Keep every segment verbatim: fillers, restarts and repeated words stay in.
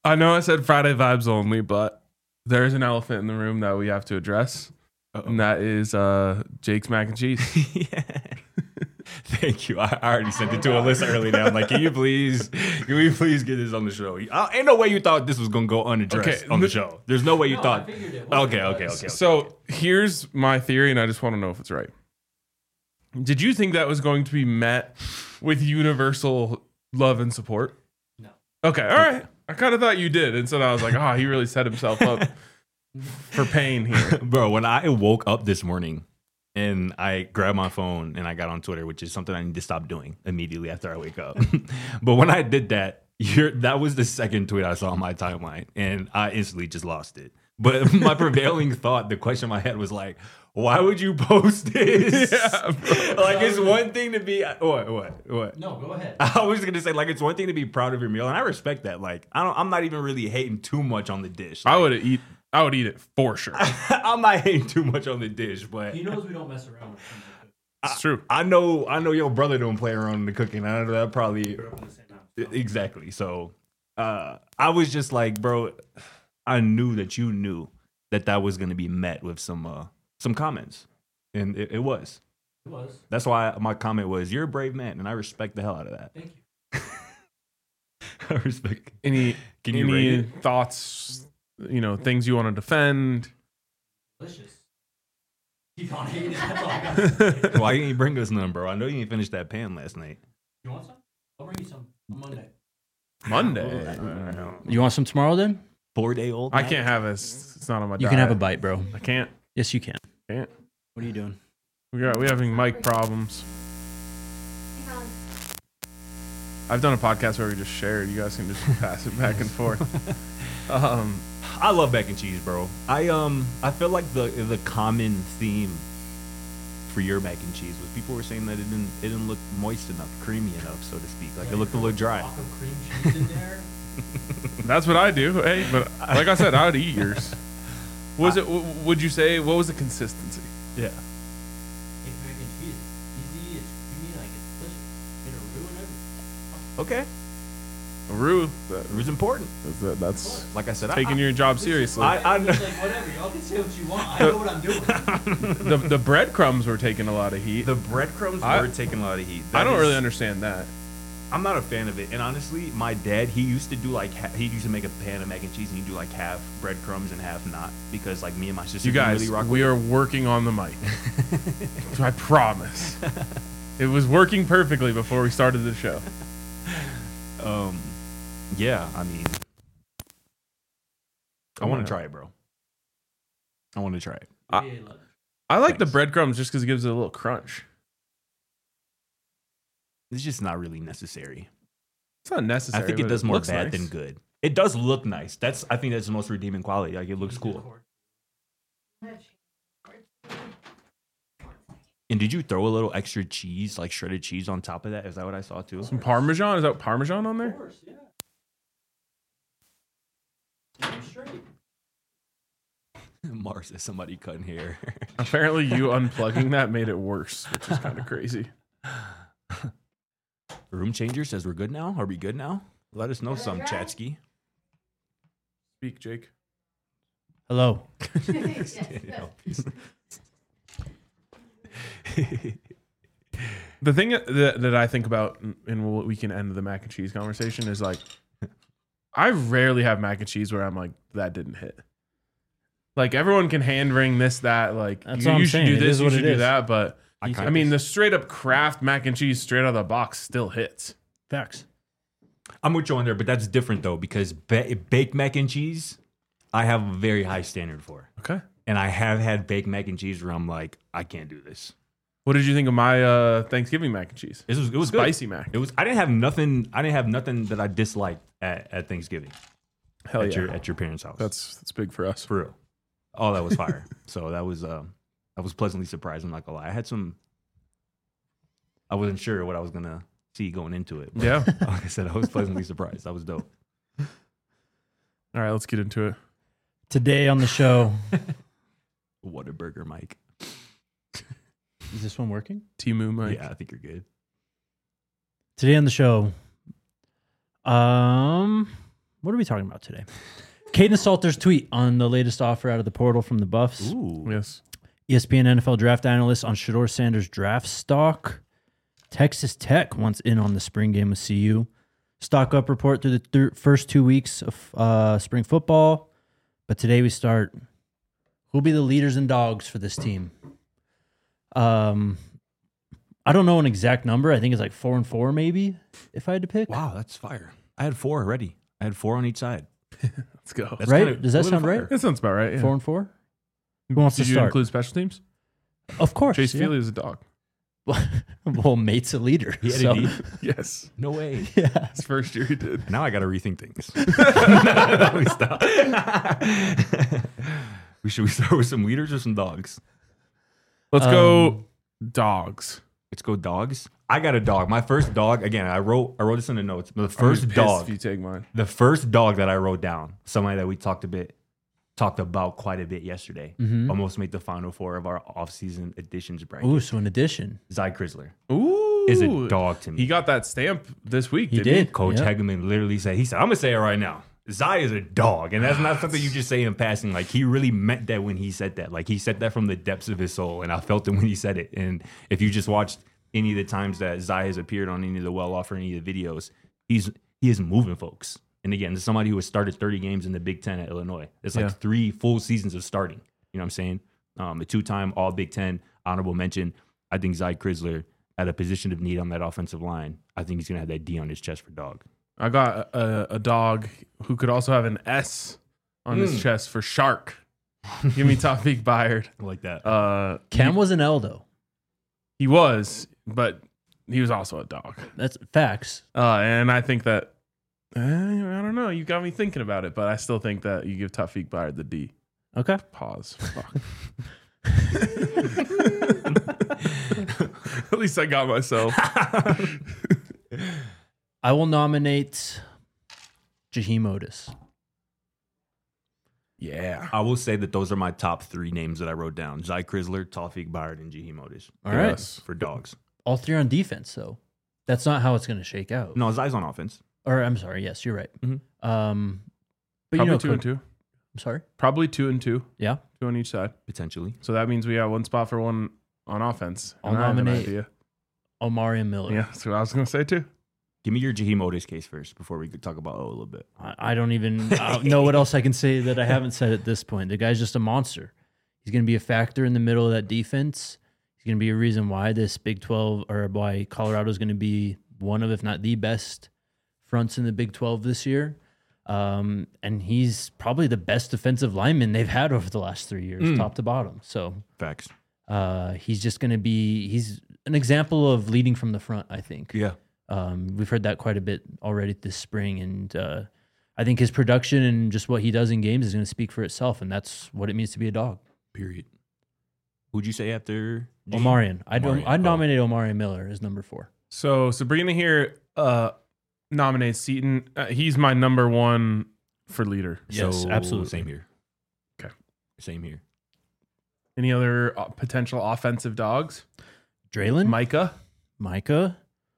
I know I said Friday vibes only, but there's an elephant in the room that we have to address. Uh-oh. And that is uh, Jake's mac and cheese. Yeah. Thank you. I already sent it to Alyssa early now. I'm like, can you please, can we please get this on the show? I, ain't no way you thought this was going to go unaddressed okay. on the show. There's no way you no, thought. Okay, okay, okay, okay. So okay. here's my theory, and I just want to know if it's right. Did you think that was going to be met with universal love and support? No. Okay, all right. I kind of thought you did. And so I was like, oh, he really set himself up for pain here. Bro, when I woke up this morning, and I grabbed my phone and I got on Twitter, which is something I need to stop doing immediately after I wake up. But when I did that, you're, that was the second tweet I saw on my timeline, and I instantly just lost it. But my prevailing thought, the question in my head was like, why would you post this? Yeah, like, it's one thing to be, what, what, what? No, go ahead. I was going to say, like, it's one thing to be proud of your meal, and I respect that. Like, I don't, I'm not even really hating too much on the dish. Like, I would eat. I would eat it for sure. I'm not hating too much on the dish, but he knows we don't mess around with it. It's true. I know. I know your brother don't play around in the cooking. I know that probably exactly. So uh, I was just like, bro, I knew that you knew that that was going to be met with some uh, some comments, and it, it was. It was. That's why my comment was, "You're a brave man," and I respect the hell out of that. Thank you. I respect. Any Can you any thoughts? You know, things you want to defend. Delicious. Keep on hating it. That's all I got to say. Why didn't you bring us none, bro? I know you didn't finish that pan last night. You want some? I'll bring you some on Monday. Monday? Uh, you want some tomorrow then? Four day old? I can't have this. It's not on my diet. You can have a bite, bro. I can't. Yes, you can. Can't. What are you doing? We got we having mic problems. I've done a podcast where we just shared. You guys can just pass it back and forth. Um, I love mac and cheese, bro. I um I feel like the the common theme for your mac and cheese was people were saying that it didn't it didn't look moist enough, creamy enough, so to speak. Like, yeah, it looked a little dry. Block of cream cheese in there. That's what I do. Hey, but like I said, I would eat yours. Was I, it? W- would you say what was the consistency? Yeah. It's mac and cheese. It's easy. It's creamy. Like, it's delicious. Get a roux and everything. Okay. A roux. Roux's important. That's, that's like I said, taking I, your job seriously. I, I know. Like, whatever. Y'all can say what you want. I know what I'm doing. the the breadcrumbs were taking a lot of heat. The breadcrumbs I, were taking a lot of heat. That I don't is, really understand that. I'm not a fan of it. And honestly, my dad, he used to do like, he used to make a pan of mac and cheese and he'd do like half breadcrumbs and half not. Because like me and my sister You guys, really rock we with are it. working on the mic. I promise. It was working perfectly before we started the show. Um, yeah, I mean, I want to try it, bro. I want to try it. I, I like Thanks. the breadcrumbs just because it gives it a little crunch. It's just not really necessary. It's not necessary. I think it does it more bad nice. than good. It does look nice. That's I think that's the most redeeming quality. Like, it looks cool. And did you throw a little extra cheese, like shredded cheese, on top of that? Is that what I saw too? Some Parmesan? Is that Parmesan on there? Of course, yeah. Damn straight. Mars says somebody cutting hair. Apparently, you unplugging that made it worse, which is kind of crazy. Room changer says we're good now. Are we good now? Let us know some, Chatsky. Speak, Jake. Hello. The thing that, that I think about, and what we can end the mac and cheese conversation, is like, I rarely have mac and cheese where I'm like, that didn't hit. Like, everyone can hand wring this, that, like, That's you, what I'm you should saying. do It this, is you what should it do is. that, but I, I mean, the straight up Kraft mac and cheese straight out of the box still hits. Facts. I'm with you on there, but that's different though, because ba- baked mac and cheese, I have a very high standard for. Okay. And I have had baked mac and cheese where I'm like, I can't do this. What did you think of my uh, Thanksgiving mac and cheese? It was it was spicy good. mac. It was. I didn't have nothing. I didn't have nothing that I disliked at, at Thanksgiving. Hell at yeah. your at your parents' house. That's that's big for us. For real. Oh, that was fire. So that was um, I was pleasantly surprised. I'm not gonna lie. I had some. I wasn't sure what I was gonna see going into it. But Yeah. Like I said, I was pleasantly surprised. That was dope. All right, let's get into it. Today on the show. Whataburger, Mike. Is this one working? Timu, Mike. Yeah, I think you're good. Today on the show, um, What are we talking about today? Caden Salter's tweet on the latest offer out of the portal from the Buffs. Ooh. Yes. E S P N N F L draft analyst on Shador Sanders' draft stock. Texas Tech wants in on the spring game with C U. Stock up report through the thir- first two weeks of uh, spring football. But today we start. Who'll be the leaders and dogs for this team? Um, I don't know an exact number. I think it's like four and four, maybe, if I had to pick. Wow, that's fire. I had four already. I had four on each side. Let's go. That's Right? kinda Does that a little sound fire. right? That sounds about right. Yeah. Four and four? Who wants Did to you start? include special teams? Of course. Chase yeah. Feely is a dog. Well, mate's a leader. He had so- a D? Yes. No way. Yeah. His first year he did. Now I got to rethink things. No, we stop. we should we start with some leaders or some dogs? Let's Um, go dogs. Let's go dogs. I got a dog. My first dog. Again, I wrote I wrote this in the notes. But the I'm gonna first be pissed dog. If you take mine. The first dog that I wrote down. Somebody that we talked a bit, talked about quite a bit yesterday. Mhm. Almost made the final four of our offseason additions bracket. Ooh, so in addition, Zy Chrysler Ooh. is a dog to me. He got that stamp this week. He didn't did. Coach Yep. Hegeman literally said, he said, I'm going to say it right now. Zy is a dog. And that's not something you just say in passing. Like, he really meant that when he said that. Like, he said that from the depths of his soul. And I felt it when he said it. And if you just watched any of the times that Zy has appeared on any of the well-off or any of the videos, he's he is moving folks. And again, somebody who has started thirty games in the Big Ten at Illinois. It's like Yeah. three full seasons of starting. You know what I'm saying? Um, a two-time All Big Ten honorable mention. I think Zy Chrysler at a position of need on that offensive line. I think he's going to have that D on his chest for dog. I got a, a dog who could also have an S on his Mm. chest for shark. Give me Tawfiq Bayard. I like that. Uh, Cam he, was an L though. he was, but he was also a dog. That's facts. Uh, and I think that eh, I don't know. You got me thinking about it, but I still think that you give Tawfiq Bayard the D. Okay. Pause. Fuck. At least I got myself. I will nominate Jaheim Otis. Yeah. I will say that those are my top three names that I wrote down. Zy Chrysler, Tawfiq Bayard, and Jaheim Otis. All right. Yes. For dogs. All three on defense, though. That's not how it's going to shake out. No, Zy's on offense. Or I'm sorry. Yes, you're right. Mhm. Um, but Probably you know, two Coach- and two. I'm sorry. Probably two and two. Yeah. Two on each side. Potentially. So that means we got one spot for one on offense. I'll And I have an nominate- idea. Omari and Miller. Yeah, that's what I was going to say too. Give me your Jaheim Otis case first before we could talk about O a little bit. I, I don't even uh, know what else I can say that I haven't said at this point. The guy's just a monster. He's going to be a factor in the middle of that defense. He's going to be a reason why this Big twelve or why Colorado is going to be one of, if not the best fronts in the Big twelve this year. Um, and he's probably the best defensive lineman they've had over the last three years, Mm. top to bottom. So Facts. uh, he's just going to be, he's an example of leading from the front, I think. Yeah. Um, we've heard that quite a bit already this spring, and uh, I think his production and just what he does in games is going to speak for itself, and that's what it means to be a dog. Period. Who'd you say after Jaheim? Omarion. I'd, Omarion. I'd Oh. nominate Omarion Miller as number four. So Sabrina here uh, nominates Seaton. Uh, he's my number one for leader. Yes, So, absolutely. Same here. Okay. Same here. Any other uh, potential offensive dogs? Draylon, Micah. Micah.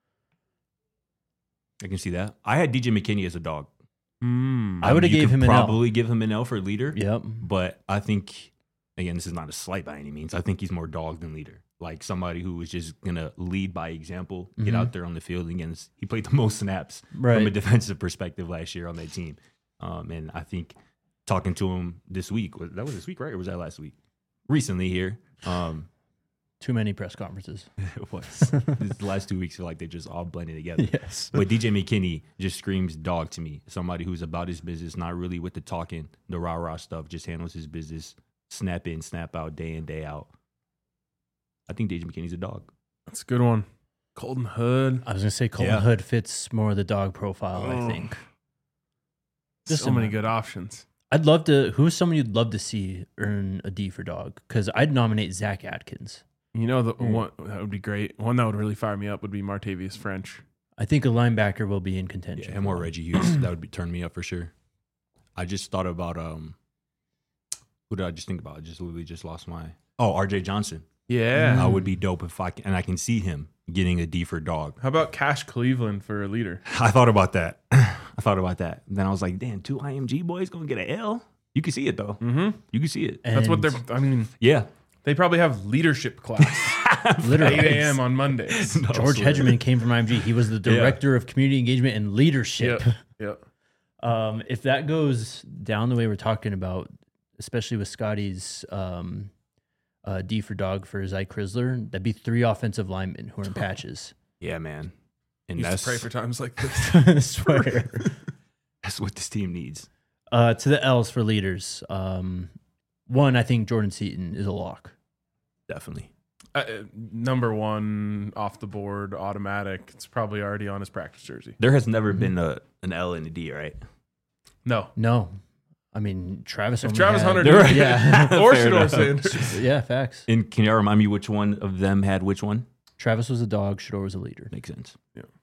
I can see that. I had D J McKinney as a dog. Mm. I would've you gave could him an L. probably give him an L for leader. Yep. But I think, again, this is not a slight by any means. I think he's more dog than leader. Like somebody who is just going to lead by example, get Mhm. out there on the field against. He played the most snaps Right. from a defensive perspective last year on that team. Um, and I think talking to him this week, was, that was this week, right? Or was that last week? Recently here. Um, Too many press conferences. it was. These last two weeks feel like they just all blended together. Yes. But D J McKinney just screams dog to me. Somebody who's about his business, not really with the talking, the rah rah stuff, just handles his business, snap in, snap out, day in, day out. I think D J McKinney's a dog. That's a good one. Colton Hood. I was going to say Colton Yeah. Hood fits more of the dog profile, I Oh. think. Just so many a- good options. I'd love to, who's someone you'd love to see earn a D for dog? Because I'd nominate Zach Atkins. You know, the Mm. one that would be great. One that would really fire me up would be Martavius French. I think a linebacker will be in contention. Yeah, him or Reggie Hughes. That would be turn me up for sure. I just thought about um who did I just think about? I just literally just lost my oh, R J Johnson. Yeah. I would be dope if I can, and I can see him getting a D for dog. How about Cash Cleveland for a leader? I thought about that. I thought about that. Then I was like, damn, two I M G boys gonna get an L. You can see it though. Mm-hmm. You can see it. That's what And they're. I mean, Yeah. they probably have leadership class literally. eight a.m. on Mondays. No, George swear. Hedgeman came from I M G. He was the director of community engagement and leadership. Yep. Yep. Um, if that goes down the way we're talking about, especially with Scotty's um, uh, D for dog for Zy Chrysler, that'd be three offensive linemen who are in patches. Yeah, man. And Used that's to pray for times like this. I swear. that's what this team needs. Uh, to the L's for leaders. Um, one, I think Jordan Seaton is a lock. Definitely. Uh, number one off the board, automatic. It's probably already on his practice jersey. There has never been a an L and a D, right? No. No. I mean, Travis If only Travis had- Hunter They're- did, Yeah. or Fair Shador enough. Sanders. Yeah, facts. And can you remind me which one of them had which one? Travis was a dog. Shador was a leader. Makes sense.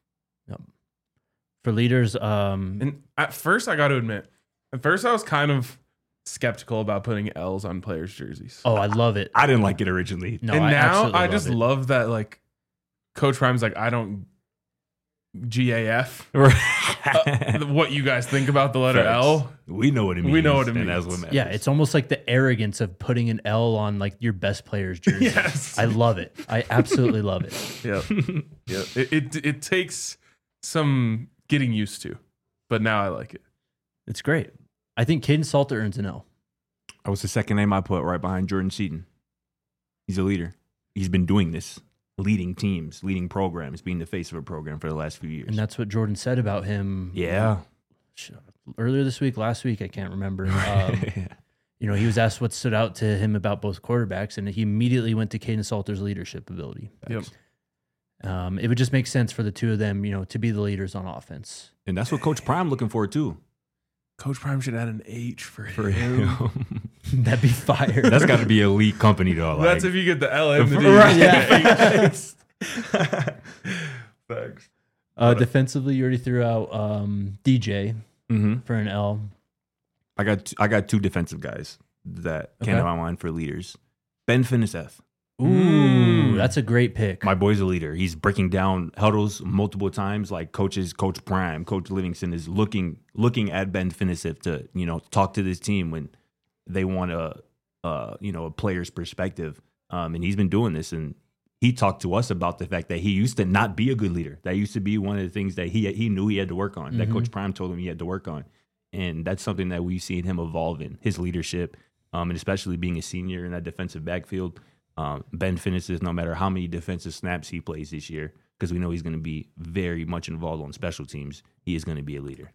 For leaders, um, And at first, I got to admit, at first I was kind of skeptical about putting L's on players' jerseys. oh, I love it. I didn't like it originally. No, and I now absolutely I love just it. love that, like, Coach Prime's like, I don't G A F uh, what you guys think about the letter Facts. L. We know what it means. We know what it and that's means. what matters. Yeah, it's almost like the arrogance of putting an L on like your best player's jersey. Yes. I love it. I absolutely love it. Yep. Yep. It, it it takes some getting used to, but now I like it. It's great. I think Caden Salter earns an L. That was the second name I put right behind Jordan Seaton. He's a leader. He's been doing this, leading teams, leading programs, being the face of a program for the last few years. And that's what Jordan said about him. yeah. Earlier this week, last week, I can't remember. Um, you know, he was asked what stood out to him about both quarterbacks, and he immediately went to Caden Salter's leadership ability. Yep. Um, it would just make sense for the two of them, you know, to be the leaders on offense. And that's what Coach Prime looking for too. Coach Prime should add an H for, For him. him. That'd be fire. That's got to be elite company though. Like, That's if you get the L and the D. Right. Yeah. Thanks. Uh, defensively, you already threw out um, D J Mhm. for an L. I got t- I got two defensive guys that came Okay. to my mind for leaders. Ben Finiseth. Ooh, Mm. that's a great pick. My boy's a leader. He's breaking down huddles multiple times. Like coaches, Coach Prime, Coach Livingston is looking looking at Ben Finiseth to you know talk to this team when they want a uh, you know a player's perspective. Um, and he's been doing this, and he talked to us about the fact that he used to not be a good leader. That used to be one of the things that he he knew he had to work on. That Mhm. Coach Prime told him he had to work on, and that's something that we've seen him evolve in his leadership, um, and especially being a senior in that defensive backfield. Um, Ben finishes no matter how many defensive snaps he plays this year, because we know he's going to be very much involved on special teams. He is going to be a leader.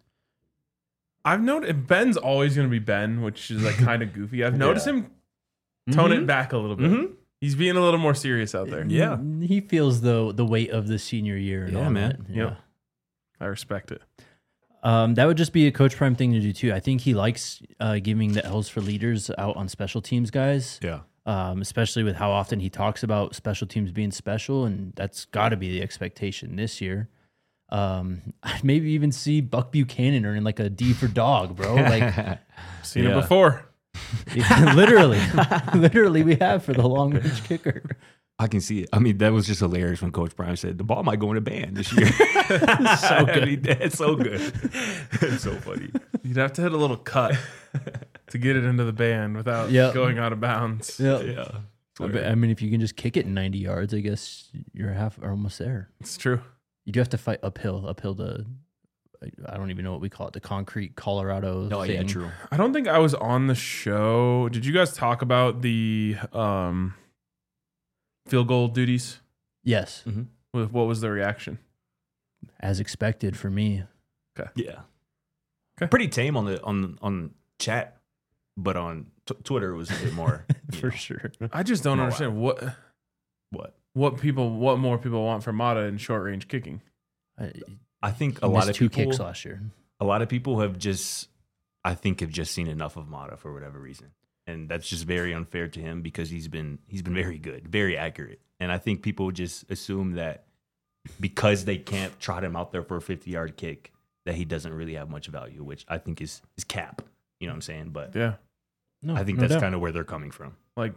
I've noticed Ben's always going to be Ben, which is like kind of goofy. I've noticed him tone Mhm. it back a little bit. Mhm. He's being a little more serious out there. Yeah. He feels the the weight of the senior year. And Yeah, all man. that. Yep. I respect it. Um, that would just be a Coach Prime thing to do too. I think he likes uh, giving the L's for leaders out on special teams guys, Yeah. um, especially with how often he talks about special teams being special, and that's got to be the expectation this year. Um, I'd maybe even see Buck Buchanan earning like a D for dog, bro. Like Seen Yeah. it before. literally, literally, we have for the long range kicker. I can see it. I mean, that was just hilarious when Coach Prime said the ball might go in a band this year. so good. I mean, that's so good. It's so funny. You'd have to hit a little cut to get it into the band without Yep. going out of bounds. Yeah. Yeah. I bet- I mean, if you can just kick it ninety yards, I guess you're half or almost there. It's true. You do have to fight uphill, uphill the. I don't even know what we call it, the concrete Colorado. Oh, thing. yeah, true. I don't think I was on the show. Did you guys talk about the um, field goal duties? Yes, What what was the reaction? as expected for me. Yeah. Okay. Pretty tame on the on on chat, but on t- Twitter it was a bit more you For know, sure. I just don't Oh, wow. understand what what what people what more people want from Mata in short range kicking. I, I think he a lot missed of two people kicks last year. a lot of people have just I think have just seen enough of Mata for whatever reason. And that's just very unfair to him because he's been he's been very good, very accurate. And I think people just assume that because they can't trot him out there for a fifty-yard kick that he doesn't really have much value, which I think is is cap. You know what I'm saying? But Yeah, No, I think no that's doubt. kind of where they're coming from. like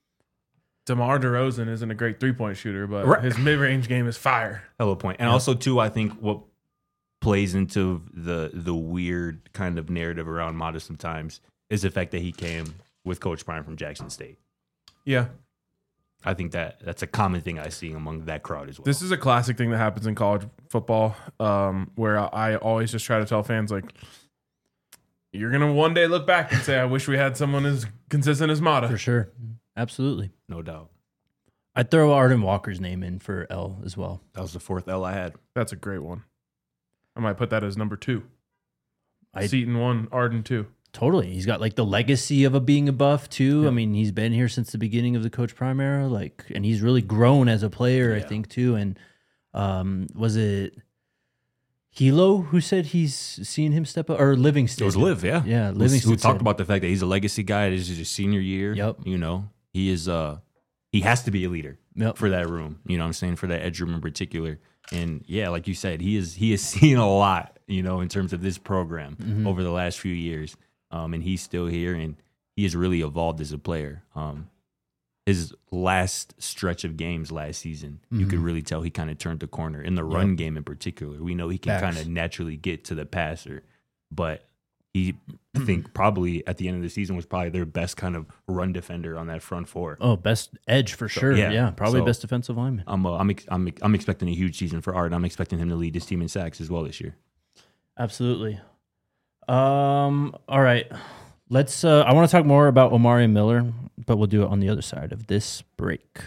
DeMar DeRozan isn't a great three point shooter, but Right. his mid range game is fire. Hello point. And also too, I think what plays into the the weird kind of narrative around Mata sometimes is the fact that he came with Coach Prime from Jackson State. Yeah. I think that that's a common thing I see among that crowd as well. This is a classic thing that happens in college football, um, where I always just try to tell fans, like, you're going to one day look back and say, I wish we had someone as consistent as Mata. For sure. Absolutely. No doubt. I'd throw Arden Walker's name in for L as well. That was the fourth L I had. That's a great one. I might put that as number two. I- Seton one, Arden two. Totally. He's got like the legacy of a being a buff too. Yeah. I mean, he's been here since the beginning of the Coach Prime era, like, and he's really grown as a player, I Yeah. think, too. And um, was it Hilo who said he's seen him step up, or Livingston? It was Liv, yeah. Yeah, Who- Livingston Who talked said- about the fact that he's a legacy guy. This is his senior year. Yep. You know, he is. Uh, he has to be a leader Yep. for that room. You know what I'm saying? For that edge room in particular. And yeah, like you said, he is he has seen a lot, you know, in terms of this program Mm-hmm. over the last few years. Um, and he's still here, and he has really evolved as a player. Um, his last stretch of games last season, you could really tell he kind of turned the corner in the run game in particular. We know he can Facts. kind of naturally get to the passer, but he, I think, probably at the end of the season was probably their best kind of run defender on that front four. Oh, best edge for sure. yeah. Yeah, probably So- best defensive lineman. I'm, uh, I'm, ex- I'm, ex- I'm expecting a huge season for Art. I'm expecting him to lead this team in sacks as well this year. Absolutely. Um. All right. Let's. Uh, I want to talk more about Omari Miller, but we'll do it on the other side of this break.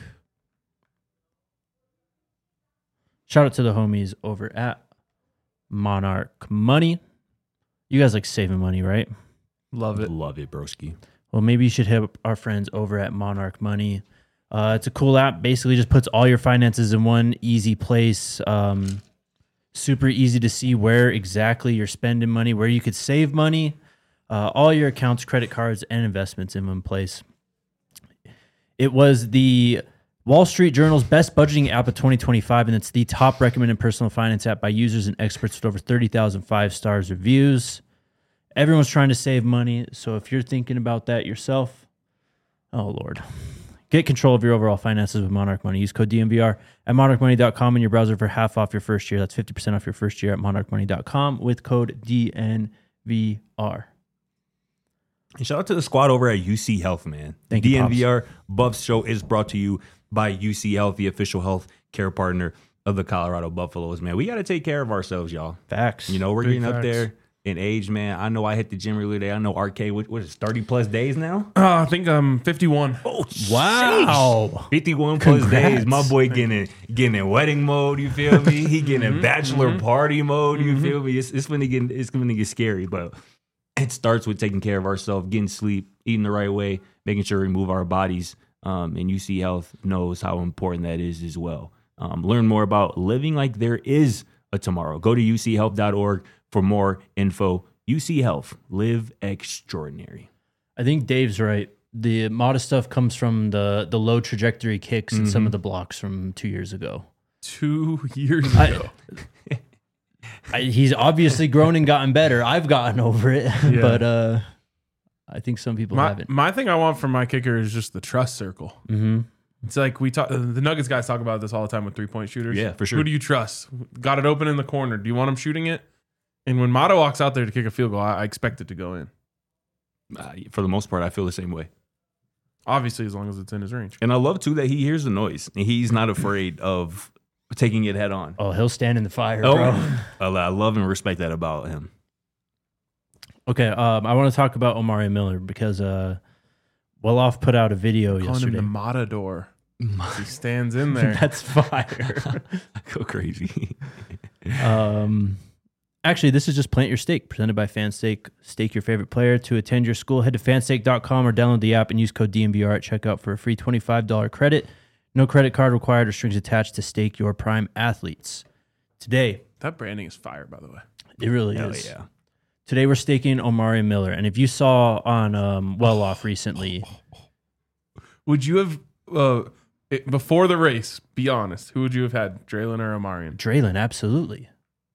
Shout out to the homies over at Monarch Money. You guys like saving money, right? Love it. Love it, broski. Well, maybe you should hit up our friends over at Monarch Money. Uh, it's a cool app. Basically, just puts all your finances in one easy place. Um, super easy to see where exactly you're spending money, where you could save money. Uh, all your accounts, credit cards, and investments in one place. It was the Wall Street Journal's best budgeting app of twenty twenty-five, and it's the top recommended personal finance app by users and experts with over thirty thousand five stars reviews. Everyone's trying to save money, so if you're thinking about that yourself, oh Lord, get control of your overall finances with Monarch Money. Use code D M V R at monarch money dot com in your browser for half off your first year. That's fifty percent off your first year at monarch money dot com with code D N V R. And shout out to the squad over at U C Health, man. Thank you, D N V R Buffs Show is brought to you by U C Health, the official health care partner of the Colorado Buffaloes, man. We got to take care of ourselves, y'all. Facts. You know, we're Big getting up facts. there in age, man. I know I hit the gym earlier today. I know R K, what, what is it, thirty plus days now? Uh, I think I'm fifty-one. Oh, Wow. fifty-one plus Congrats. days. My boy getting getting in wedding mode, you feel me? He getting in bachelor party mode, you feel me? It's, it's going to get it's going to get scary, but it starts with taking care of ourselves, getting sleep, eating the right way, making sure we move our bodies. Um, and U C Health knows how important that is as well. Um, learn more about living like there is a tomorrow. Go to u c health dot org for more info. U C Health, live extraordinary. I think Dave's right. The modest stuff comes from the the low trajectory kicks and some of the blocks from two years ago. Two years I- ago. I, he's obviously grown and gotten better. I've gotten over it, Yeah. but uh, I think some people my, haven't. my thing I want from my kicker is just the trust circle. Mm-hmm. It's like we talk. The Nuggets guys talk about this all the time with three point shooters. Yeah, for sure. Who do you trust? Got it open in the corner. Do you want him shooting it? And when Mata walks out there to kick a field goal, I, I expect it to go in. Uh, for the most part, I feel the same way. Obviously, as long as it's in his range. And I love, too, that he hears the noise and he's not afraid of taking it head on. Oh, he'll stand in the fire, Oh, bro. I I love and respect that about him. Okay, um, I want to talk about Omari Miller because uh, Weloff put out a video Calling him yesterday. the Matador. He stands in there. That's fire. I go crazy. um, actually, this is just Plant Your Stake, presented by Fanstake. Stake your favorite player. To attend your school, head to fanstake dot com or download the app and use code D M V R at checkout for a free twenty-five dollars credit. No credit card required or strings attached to stake your prime athletes. Today, That branding is fire, by the way. it really Hell is. yeah. Today we're staking Omari Miller, and if you saw on um, Well Off recently, Would you have, uh, it, before the race, be honest, who would you have had, Draylon or Omarion? Draylen, absolutely.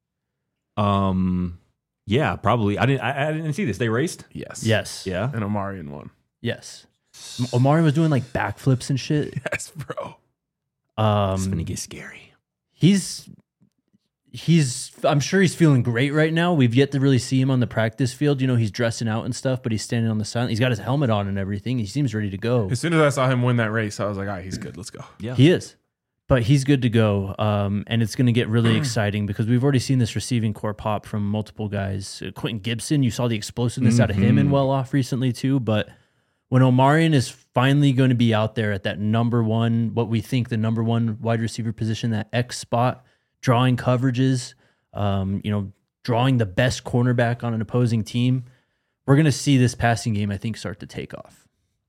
Um, yeah, probably. I didn't. I, I didn't see this. They raced. Yes. Yes. Yeah. And Omarion won. Yes. Omari was doing like backflips and shit. Yes, bro. It's gonna Um, get scary. he's he's I'm sure he's feeling great right now. We've yet to really see him on the practice field. You know, he's dressing out and stuff, but he's standing on the side. He's got his helmet on and everything. He seems ready to go. As soon as I saw him win that race, I was like, all right, he's good. Let's go. Yeah. He is. But he's good to go. Um, and it's going to get really exciting because we've already seen this receiving core pop from multiple guys. Uh, Quentin Gibson, you saw the explosiveness out of him in well off recently too. But when Omarion is finally going to be out there at that number one, what we think the number one wide receiver position, that X spot, drawing coverages, um, you know, drawing the best cornerback on an opposing team, we're going to see this passing game, I think, start to take off.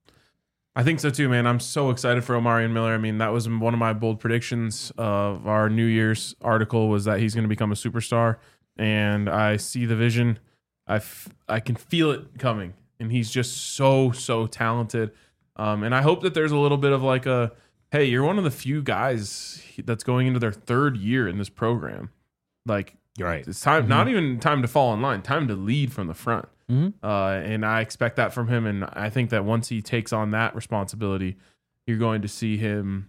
I think so too, man. I'm so excited for Omarion Miller. I mean, that was one of my bold predictions of our New Year's article was that he's going to become a superstar. And I see the vision. I, f- I can feel it coming. And he's just so, so talented. Um, and I hope that there's a little bit of like a, hey, you're one of the few guys that's going into their third year in this program. Like, You're right. it's time, not even time to fall in line, time to lead from the front. Mm-hmm. Uh, and I expect that from him. And I think that once he takes on that responsibility, you're going to see him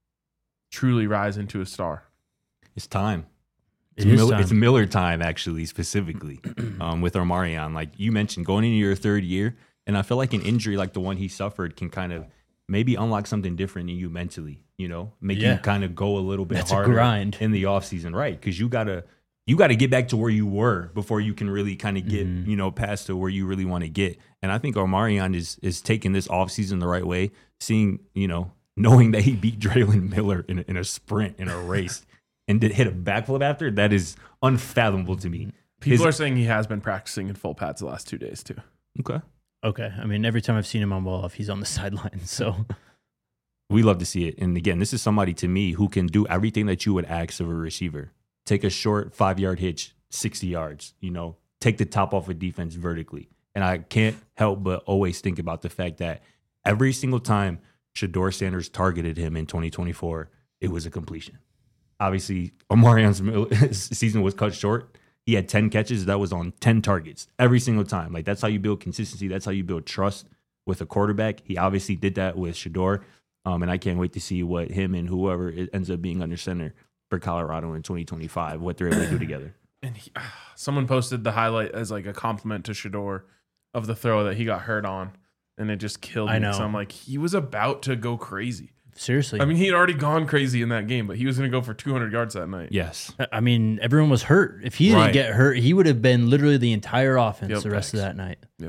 truly rise into a star. It's time. It's, It is Mil- time. it's Miller time, actually, specifically um, with Omarion. Like you mentioned, going into your third year, and I feel like an injury like the one he suffered can kind of maybe unlock something different in you mentally, you know, make Yeah. you kind of go a little bit That's a harder grind. in the offseason, right? Because you got to you got to get back to where you were before you can really kind of get, Mm-hmm. you know, past to where you really want to get. And I think Omarion is is taking this offseason the right way, seeing, you know, knowing that he beat Draylon Miller in a, in a sprint, in a race, and did hit a backflip after. That is unfathomable to me. People His- are saying he has been practicing in full pads the last two days too. Okay. Okay. I mean, every time I've seen him on well off, he's on the sideline. So We love to see it. And again, this is somebody to me who can do everything that you would ask of a receiver. Take a short five yard hitch, sixty yards, you know, take the top off of defense vertically. And I can't help but always think about the fact that every single time Shedeur Sanders targeted him in twenty twenty-four, it was a completion. Obviously, Omarion's season was cut short. He had ten catches. That was on ten targets every single time. Like, that's how you build consistency. That's how you build trust with a quarterback. He obviously did that with Shedeur. Um, and I can't wait to see what him and whoever it ends up being under center for Colorado in twenty twenty-five, what they're able to do together. And he, someone posted the highlight as like a compliment to Shedeur of the throw that he got hurt on, and it just killed me. I know. So I'm like, he was about to go crazy. seriously, I mean, he had already gone crazy in that game, but he was going to go for two hundred yards that night. Yes. I mean, everyone was hurt. If he Right. didn't get hurt, he would have been literally the entire offense Yep, the rest of facts. that night. Yep.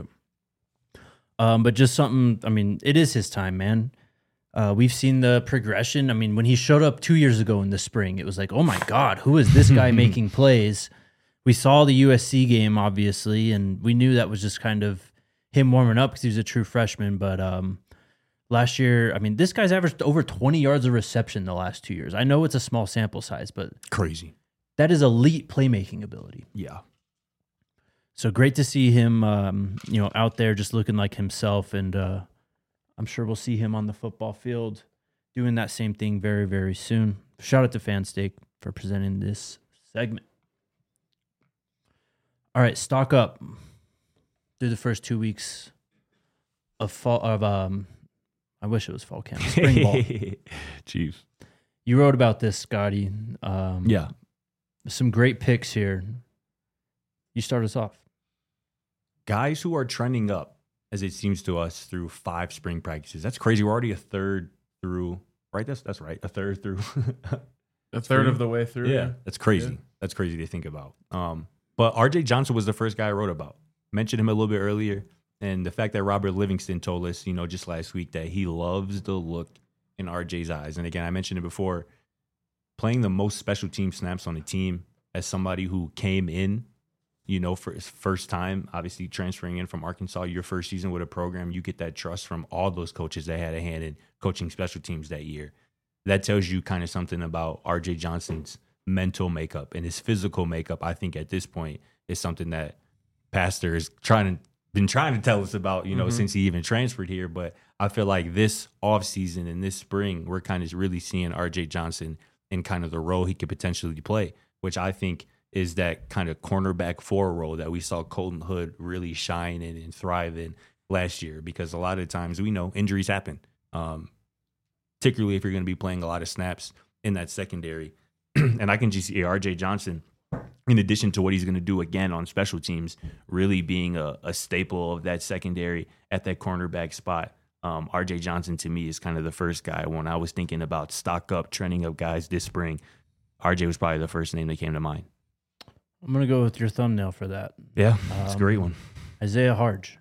Um, but just something, I mean, it is his time, man. Uh, we've seen the progression. I mean, when he showed up two years ago in the spring, it was like, oh my God, who is this guy making plays? We saw the U S C game, obviously, and we knew that was just kind of him warming up because he was a true freshman. But um, last year, I mean, this guy's averaged over twenty yards of reception the last two years. I know it's a small sample size, but Crazy. that is elite playmaking ability. Yeah. So great to see him, um, you know, out there just looking like himself, and uh, I'm sure we'll see him on the football field doing that same thing very, very soon. Shout out to Fanstake for presenting this segment. All right, stock up through the first two weeks of fall of um, I wish it was fall camp, spring ball. Chief. You wrote about this, Scotty. Um, Yeah. some great picks here. You start us off. Guys who are trending up, as it seems to us, through five spring practices. That's crazy. We're already a third through, right? That's that's right. A third through. A third of the way through. Yeah, that's crazy. Yeah. That's crazy to think about. Um, but R J Johnson was the first guy I wrote about. Mentioned him a little bit earlier, and the fact that Robert Livingston told us, you know, just last week that he loves the look in R J's eyes. And again, I mentioned it before, playing the most special team snaps on the team as somebody who came in, you know, for his first time, obviously transferring in from Arkansas, your first season with a program, you get that trust from all those coaches that had a hand in coaching special teams that year. That tells you kind of something about R J Johnson's mental makeup and his physical makeup. I think at this point is something that Pastor is trying to been trying to tell us about, you know, Mhm. since he even transferred here. But I feel like this offseason and this spring, we're kind of really seeing R J Johnson in kind of the role he could potentially play, which I think is that kind of cornerback four role that we saw Colton Hood really shine in and thrive in last year. Because a lot of times we know injuries happen, um, particularly if you're going to be playing a lot of snaps in that secondary. And I can just see R J Johnson in addition to what he's going to do again on special teams, really being a, a staple of that secondary at that cornerback spot. Um, R J Johnson, to me, is kind of the first guy. When I was thinking about stock up, trending up guys this spring, R J was probably the first name that came to mind. I'm going to go with your thumbnail for that. Yeah, it's Um, a great one. Isaiah Harge.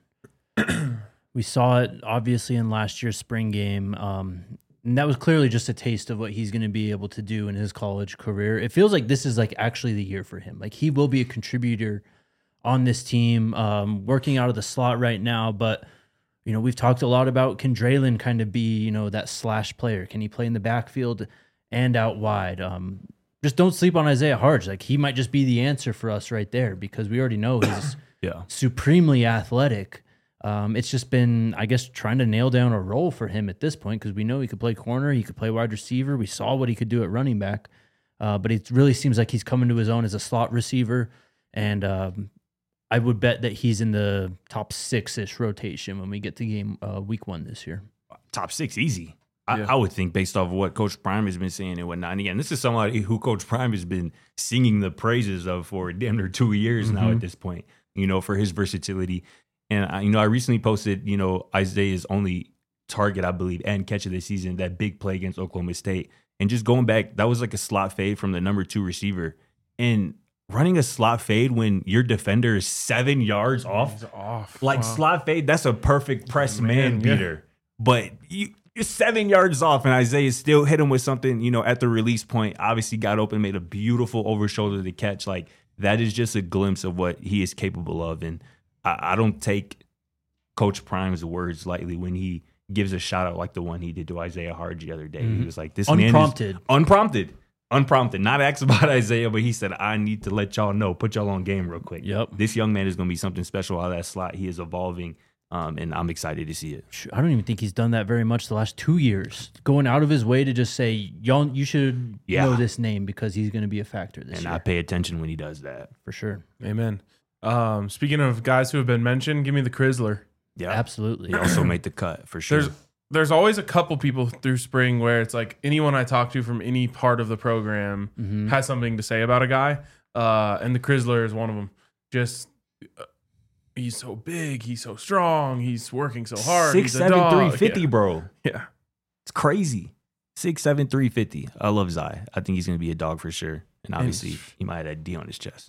We saw it obviously in last year's spring game. Um, and that was clearly just a taste of what he's going to be able to do in his college career. It feels like this is like actually the year for him. Like he will be a contributor on this team, um, working out of the slot right now. But, you know, we've talked a lot about can Draylon kind of be, you know, that slash player? Can he play in the backfield and out wide? Um, just don't sleep on Isaiah Harge. Like he might just be the answer for us right there because we already know he's Yeah. supremely athletic. Um, it's just been, I guess, trying to nail down a role for him at this point because we know he could play corner, he could play wide receiver. We saw what he could do at running back, uh, but it really seems like he's coming to his own as a slot receiver. And um, I would bet that he's in the top six-ish rotation when we get to game uh, week one this year. Top six, easy. I, Yeah. I would think based off of what Coach Prime has been saying and whatnot. And again, this is somebody who Coach Prime has been singing the praises of for damn near two years now at this point, you know, for his versatility. And, I, you know, I recently posted, you know, Isaiah's only target, I believe, and catch of the season, that big play against Oklahoma State. And just going back, that was like a slot fade from the number two receiver. And running a slot fade when your defender is seven yards off, He's off. like Wow. slot fade, that's a perfect press man, Man, yeah. beater. But you, you're seven yards off, and Isaiah still hit him with something, you know, at the release point. Obviously got open, made a beautiful over shoulder to catch. Like, that is just a glimpse of what he is capable of. And I, I don't take Coach Prime's words lightly when he gives a shout out like the one he did to Isaiah Harge the other day. Mhm. He was like, this Unprompted. man is unprompted. Unprompted. Not asked about Isaiah, but he said, I need to let y'all know, put y'all on game real quick. Yep. This young man is going to be something special out of that slot. He is evolving, um, and I'm excited to see it. I don't even think he's done that very much the last two years. Going out of his way to just say, y'all, you should Yeah. know this name because he's going to be a factor this And year. I pay attention when he does that. for sure. Amen. Um, speaking of guys who have been mentioned, give me the Chrysler. Yeah. Absolutely. He also made the cut for sure. There's there's always a couple people through spring where it's like anyone I talk to from any part of the program Mhm. has something to say about a guy, uh, and the Chrysler is one of them. Just uh, he's so big, he's so strong, he's working so hard. Six, he's a seven, dog. three fifty, Yeah. bro. Yeah. It's crazy. Six, seven, three fifty. I love Zai. I think he's going to be a dog for sure. And obviously, he might have that D on his chest.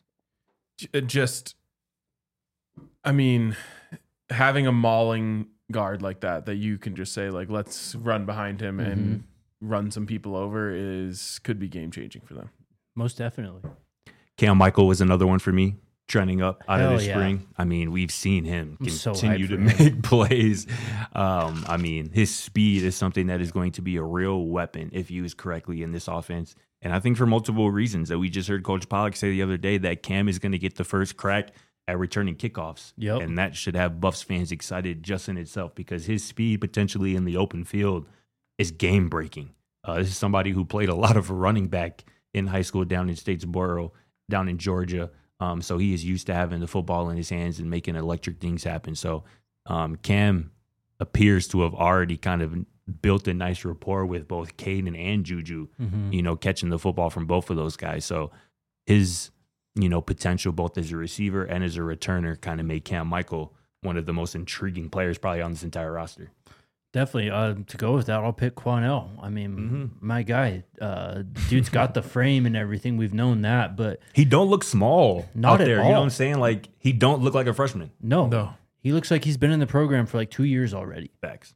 J- Just, I mean, having a mauling guard like that that you can just say like, let's run behind him and run some people over is could be game changing for them. Most definitely. Cam Michael was another one for me, trending up out Hell of the yeah. spring. I mean, we've seen him I'm so continue hyped to for him. make plays. Um, I mean, his speed is something that is going to be a real weapon if used correctly in this offense. And I think for multiple reasons that we just heard Coach Pollock say the other day that Cam is going to get the first crack at returning kickoffs. Yep. And that should have Buffs fans excited just in itself because his speed potentially in the open field is game breaking. Uh, this is somebody who played a lot of running back in high school down in Statesboro, down in Georgia. Um, so he is used to having the football in his hands and making electric things happen. So um, Cam appears to have already kind of built a nice rapport with both Caden and Juju, Mhm. you know, catching the football from both of those guys. So his, you know, potential both as a receiver and as a returner kind of made Cam Michael one of the most intriguing players probably on this entire roster. Definitely. Uh, to go with that, I'll pick Quanell. I mean, Mhm. my guy, uh, dude's got the frame and everything. We've known that, but He don't look small Not out at there. You all. know what I'm saying? Like, he don't look like a freshman. no, No. he looks like he's been in the program for like two years already. Facts.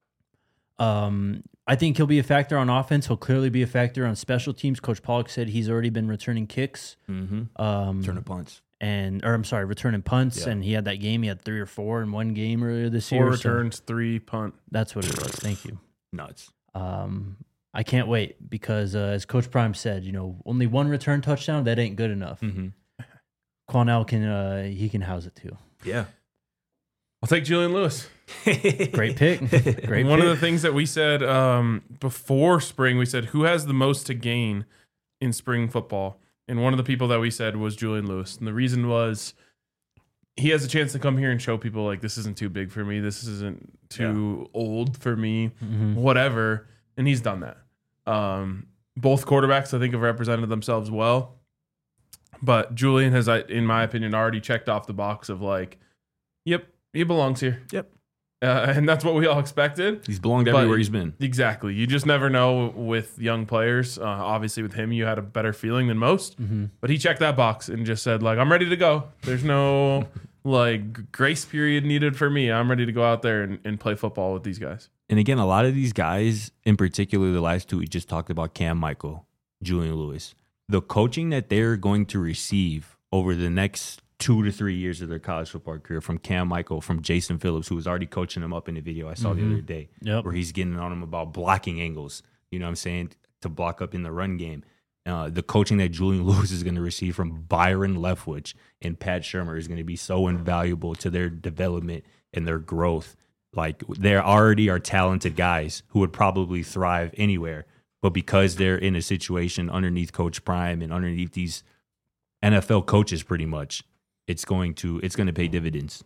Um, I think he'll be a factor on offense. He'll clearly be a factor on special teams. Coach Pollock said he's already been returning kicks. Mm-hmm. Um, Turn of punts. and or I'm sorry, returning punts. Yeah. And he had that game. He had three or four in one game earlier this Four year. so returns, three punt. that's what it was. Thank you. Nuts. Um, I can't wait because uh, as Coach Prime said, you know, only one return touchdown that ain't good enough. Mm-hmm. Quanell can uh, he can house it too. Yeah. I'll take Julian Lewis. Great pick. Great One pick. of the things that we said um, before spring, we said who has the most to gain in spring football, and one of the people that we said was Julian Lewis, and the reason was he has a chance to come here and show people like this isn't too big for me, this isn't too old for me, Mhm. whatever, and he's done that. Um, both quarterbacks I think have represented themselves well, But Julian has, I- in my opinion, already checked off the box of like, yep, he belongs here. Yep. Uh, and that's what we all expected. He's belonged But- everywhere he's been. Exactly. You just never know with young players. Uh, obviously, with him, you had a better feeling than most. Mm-hmm. But he checked that box and just said, like, I'm ready to go. There's no like grace period needed for me. I'm ready to go out there and, and play football with these guys. And again, a lot of these guys, in particular, the last two we just talked about, Cam Michael, Julian Lewis, the coaching that they're going to receive over the next two to three years of their college football career from Cam Michael, from Jason Phillips, who was already coaching them up in the video I saw Mhm. the other day, Yep. where he's getting on them about blocking angles, you know what I'm saying, to block up in the run game. Uh, the coaching that Julian Lewis is going to receive from Byron Leftwich and Pat Shermer is going to be so invaluable to their development and their growth. Like, they already are talented guys who would probably thrive anywhere, but because they're in a situation underneath Coach Prime and underneath these N F L coaches, pretty much, it's going to it's going to pay dividends.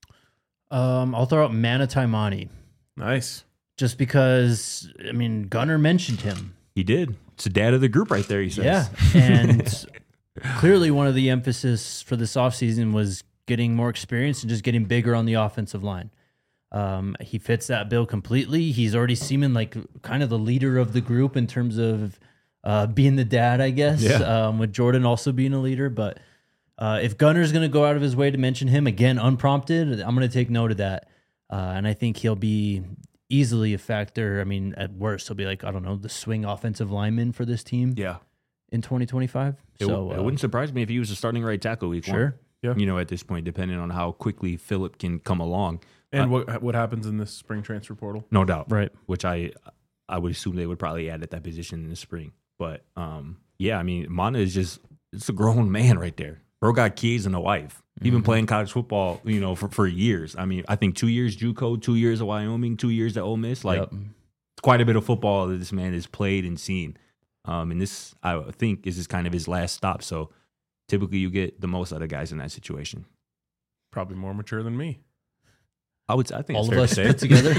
Um, I'll throw out Manati Mani Nice. just because, I mean, Gunner mentioned him. He did. It's the dad of the group right there, he says. Yeah. And clearly one of the emphasis for this offseason was getting more experience and just getting bigger on the offensive line. Um, he fits that bill completely. He's already seeming like kind of the leader of the group in terms of uh, being the dad, I guess, Yeah. um, with Jordan also being a leader. But uh, if Gunner's going to go out of his way to mention him, again, unprompted, I'm going to take note of that. Uh, and I think he'll be easily a factor. I mean, at worst, he'll be like, I don't know, the swing offensive lineman for this team Yeah. in twenty twenty-five. It, so w- it uh, wouldn't surprise me if he was a starting right tackle week one. sure. Yeah. You know, at this point, depending on how quickly Phillip can come along. And Uh, what what happens in this spring transfer portal? No doubt. Right. Which I I would assume they would probably add at that position in the spring. But um, yeah, I mean, Mana is just, it's a grown man right there. Bro got kids and a wife. He's been Mhm. playing college football, you know, for, for years. I mean, I think two years JUCO, two years at Wyoming, two years at Ole Miss. Like, Yep. quite a bit of football that this man has played and seen. Um, and this, I think, is his kind of his last stop. So typically you get the most out of guys in that situation. Probably more mature than me. I would. I think All it's of fair us to say. put together?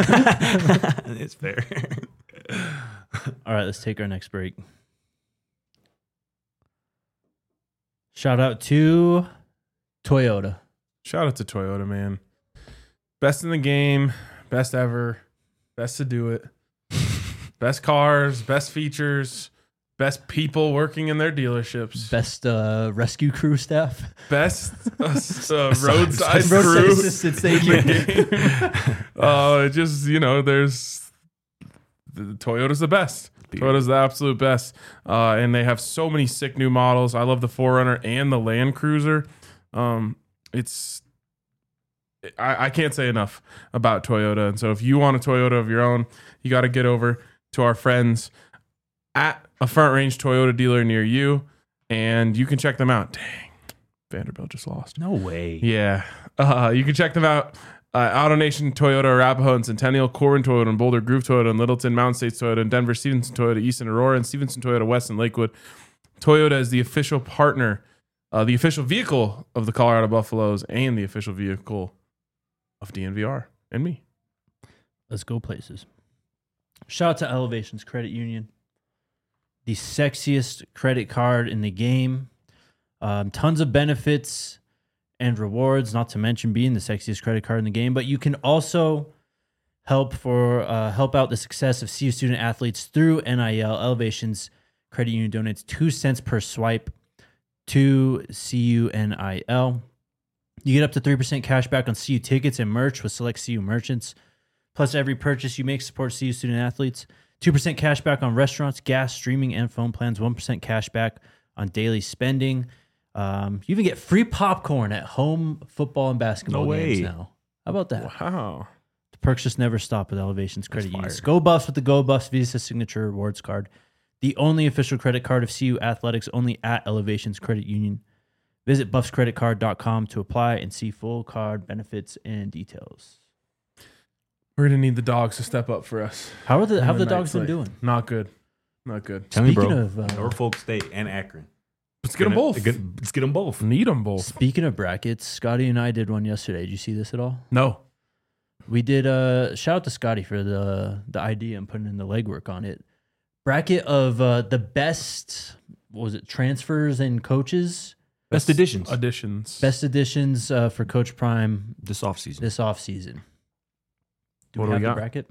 It's fair. All right, let's take our next break. Shout out to Toyota. Shout out to Toyota, man. Best in the game, best ever, best to do it. Best cars, best features, best people working in their dealerships. Best uh, rescue crew staff. Best uh, uh, roadside Roadside crew. assistance, thank you. Oh, it just, you know, there's the Toyota's the best. Toyota's the absolute best. Uh, and they have so many sick new models. I love the four runner and the Land Cruiser. Um, it's I, I can't say enough about Toyota. And so if you want a Toyota of your own, you got to get over to our friends at a Front Range Toyota dealer near you, and you can check them out. Dang, Vanderbilt just lost. No way. Yeah. Uh, you can check them out. Uh, AutoNation Toyota, Arapahoe and Centennial, Corbin Toyota and Boulder, Groove Toyota and Littleton, Mountain States Toyota and Denver, Stevenson Toyota, East and Aurora, and Stevenson Toyota West and Lakewood. Toyota is the official partner, uh, the official vehicle of the Colorado Buffaloes, and the official vehicle of D N V R and me. Let's go places. Shout out to Elevations Credit Union, the sexiest credit card in the game. Um, tons of benefits and rewards, not to mention being the sexiest credit card in the game. But you can also help for uh, help out the success of C U student athletes through N I L. Elevations Credit Union donates two cents per swipe to C U N I L. You get up to three percent cash back on C U tickets and merch with select C U merchants. Plus, every purchase you make supports C U student athletes. two percent cash back on restaurants, gas, streaming, and phone plans. one percent cash back on daily spending. Um, you even get free popcorn at home football and basketball No games way. now. How about that? Wow. The perks just never stop with Elevations Credit That's Union. fire. Go Buffs with the Go Buffs Visa Signature Rewards Card. The only official credit card of C U Athletics, only at Elevations Credit Union. Visit buffs credit card dot com to apply and see full card benefits and details. We're going to need the dogs to step up for us. How are the how on have the night dogs been slate. doing? Not good. Not good. Tell me, Speaking bro. of uh, Norfolk State and Akron. Let's get them Gonna- both. get- Let's get them both. Need them both. speaking of brackets, Scotty and I did one yesterday. Did you see this at all? No. We did uh shout out to Scotty for the the idea and putting in the legwork on it. Bracket of uh, the best what was it, transfers and coaches. Best additions Additions. Best additions uh, for Coach Prime this offseason. this offseason. Do What we do have we the got? bracket?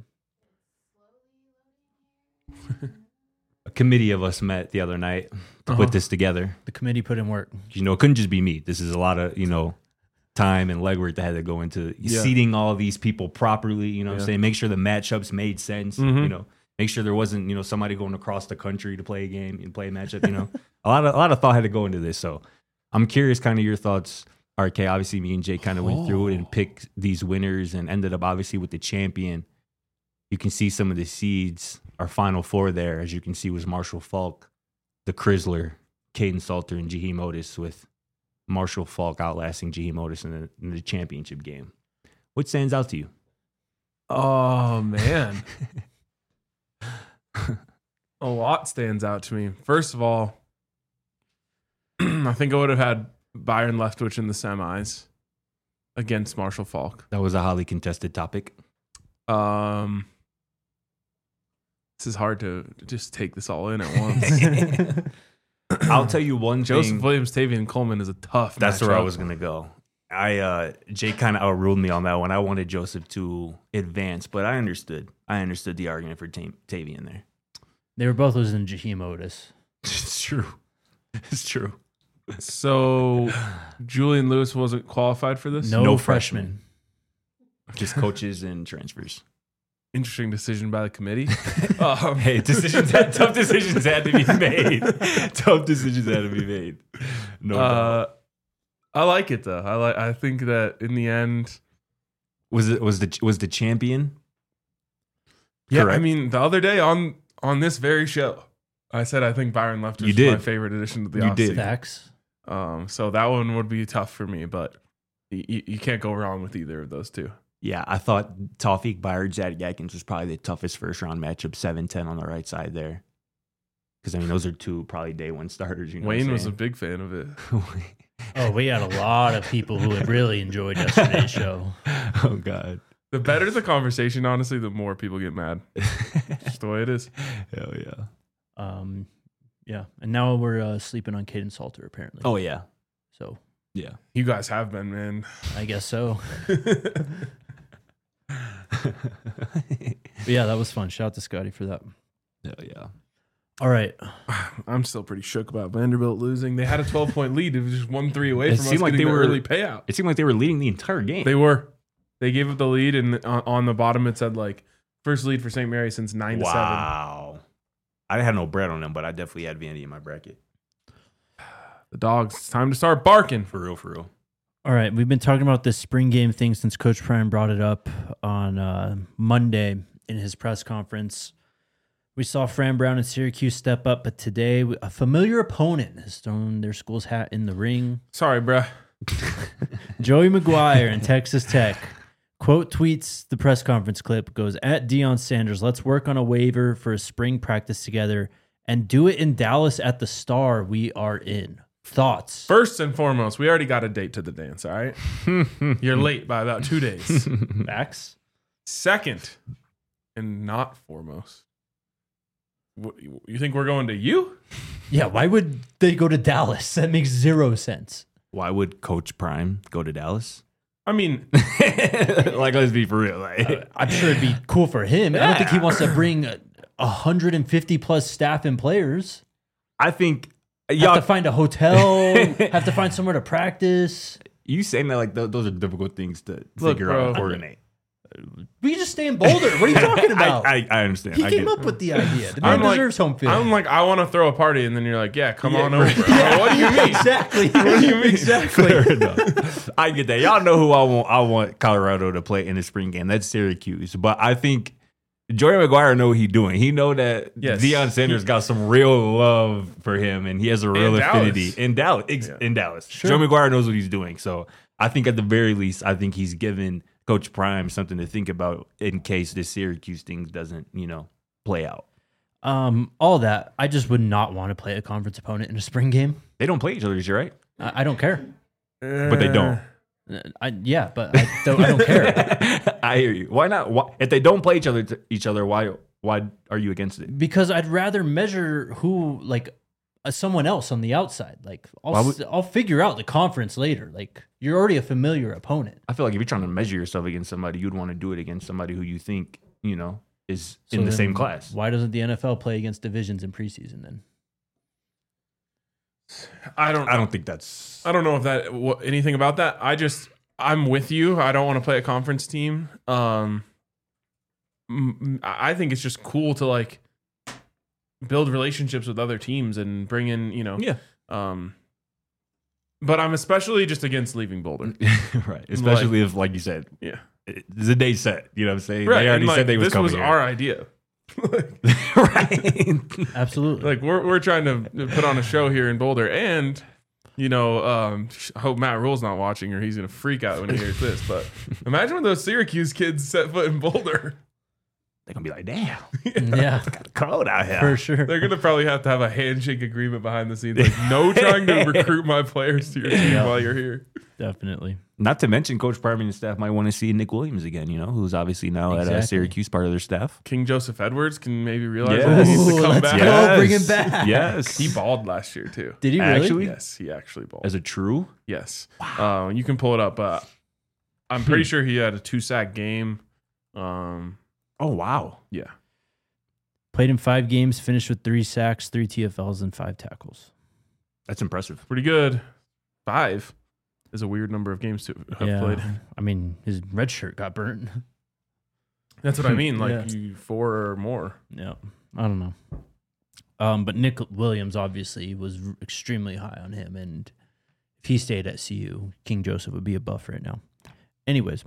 A committee of us met the other night to Uh-huh. put this together. The committee put in work. You know, it couldn't just be me. This is a lot of, you know, time and legwork that had to go into Yeah. seating all these people properly, you know what Yeah. I'm saying? Make sure the matchups made sense, Mhm. you know, make sure there wasn't, you know, somebody going across the country to play a game and play a matchup, you know. a lot of a lot of thought had to go into this. So I'm curious kind of your thoughts. R K, obviously me and Jay kind of went through it and picked these winners and ended up obviously with the champion. You can see some of the seeds. Our final four there, as you can see, was Marshall Falk, the Chrysler, Caden Salter, and Jaheim Otis, with Marshall Falk outlasting Jaheim Otis in the, in the championship game. What stands out to you? Oh man. A lot stands out to me. First of all, I think I would have had Byron Leftwich in the semis against Marshall Falk. That was a highly contested topic. Um, this is hard to just take this all in at once. I'll tell you one Joseph thing. Williams, Tavian Coleman is a tough. That's where I matchup. was gonna go. I uh Jay kind of outruled me on that one. I wanted Joseph to advance, but I understood. I understood the argument for Ta- Tavian there. They were both losing to Jaheim Otis. It's true. It's true. So Julian Lewis wasn't qualified for this. No, No freshman. Just coaches and transfers. Interesting decision by the committee. um, Hey, decisions had, tough decisions had to be made. Tough decisions had to be made. No doubt. uh, I like it though. I like. I think that in the end, Was it was the was the champion? yeah. I Correct. mean, the other day on on this very show, I said I think Byron Leftwich You was did. my favorite addition to the You offseason. did. Facts. Um, so that one would be tough for me, but you, you can't go wrong with either of those two. Yeah, I thought Tawfiq Byard, Zaddy Atkins was probably the toughest first round matchup, seven ten on the right side there. Because, I mean, those are two probably day one starters. You know Wayne what was a I'm big fan of it. saying? Oh, we had a lot of people who had really enjoyed yesterday's show. Oh, God. The better the conversation, honestly, the more people get mad. Just the way it is. Hell yeah. Um, yeah, and now we're uh, sleeping on Caden Salter apparently. Oh, yeah. So Yeah. You guys have been, man. I guess so. But yeah, that was fun. Shout out to Scotty for that. Hell yeah. All right. I'm still pretty shook about Vanderbilt losing. They had a twelve point lead. It was just one three away It from us seemed like getting they the were- early payout. It seemed like they were leading the entire game. They were. They gave up the lead, and on, on the bottom it said like first lead for Saint Mary since nine to seven. wow. I didn't have no bread on them, but I definitely had Vandy in my bracket. The dogs. It's time to start barking. For real, for real. All right. We've been talking about this spring game thing since Coach Prime brought it up on uh, Monday in his press conference. We saw Fran Brown and Syracuse step up, but today a familiar opponent has thrown their school's hat in the ring. Sorry, bruh. Joey McGuire and Texas Tech. Quote tweets the press conference clip, goes, at Deion Sanders, let's work on a waiver for a spring practice together and do it in Dallas at the Star we are in. Thoughts? First and foremost, we already got a date to the dance, all right? You're late by about two days. Facts? Second, and not foremost, what, you think we're going to you? Yeah, why would they go to Dallas? That makes zero sense. Why would Coach Prime go to Dallas? I mean, Like, let's be for real. Like, I'm sure it'd be cool for him. I don't think he wants to bring a one hundred fifty plus staff and players. I think Have y'all to find a hotel, have to find somewhere to practice. you saying that like th- those are difficult things to Look, figure bro. out and coordinate. We can just stay in Boulder. What are you talking about? I, I, I understand. he I came get up it. with the idea. The I'm man like- deserves home field. I'm like, I want to throw a party, and then you're like, yeah, come Yeah, on over. right. I'm like, what do you mean? exactly. What do you mean? Exactly. Fair enough. I get that. Y'all know who I want. I want Colorado to play in the spring game. That's Syracuse. But I think Joey McGuire know what he's doing. He know that Yes. Deion Sanders got some real love for him, and he has a real In affinity Dallas. in Dallas. Ex- Yeah. In Dallas, Sure. Joey McGuire knows what he's doing. So I think at the very least, I think he's given Coach Prime something to think about in case this Syracuse thing doesn't, you know, play out. Um, all that. I just would not want to play a conference opponent in a spring game. They don't play each other, is you right? I, I don't care. But they don't. Uh, I, yeah, but I don't, I don't care. I hear you. Why not? Why, if they don't play each other, each other, why why are you against it? Because I'd rather measure who, like, uh, someone else on the outside. Like I'll Why would- s- I'll figure out the conference later. Like you're already a familiar opponent. I feel like if you're trying to measure yourself against somebody, you'd want to do it against somebody who you think, you know, is So in the then same class. Why doesn't the N F L play against divisions in preseason then? I don't. I don't think that's. I don't know if that wh- anything about that. I just I'm with you. I don't want to play a conference team. Um, m- I I think it's just cool to like build relationships with other teams and bring in, you know. Yeah. Um, but I'm especially just against leaving Boulder. Right. Especially if, like you said, Yeah. it- the day set. You know what I'm saying? Right. They already and, like, said they was this coming was here. our idea. like, Right. Absolutely. like we're we're trying to put on a show here in Boulder, and you know, um, I hope Matt Rule's not watching, or he's gonna freak out when he hears this. But imagine when those Syracuse kids set foot in Boulder. They're going to be like, damn, yeah, got cold out here. for sure. They're gonna probably have to have a handshake agreement behind the scenes, like no trying to recruit my players to your team Yeah. while you're here. Definitely. Not to mention, Coach Parman and staff might want to see Nick Williams again, you know, who's obviously now at uh, Exactly. Syracuse, part of their staff. King Joseph Edwards can maybe realize Yes. that he needs to Ooh, come let's back. go. Yes. bring him back. Yes. He balled last year too. Did he really? Actually? Yes, he actually balled. As a true. Yes. Uh, you can pull it up. Uh, I'm pretty Hmm. sure he had a two sack game. Um, Oh, wow. yeah. Played in five games, finished with three sacks, three T F Ls, and five tackles. That's impressive. Pretty good. Five is a weird number of games to have yeah. played. I mean, his red shirt got burnt. That's what I mean. Like Yeah. you four or more. Yeah. I don't know. Um, but Nick Williams obviously was r- extremely high on him, and if he stayed at C U, King Joseph would be a buff right now. Anyways,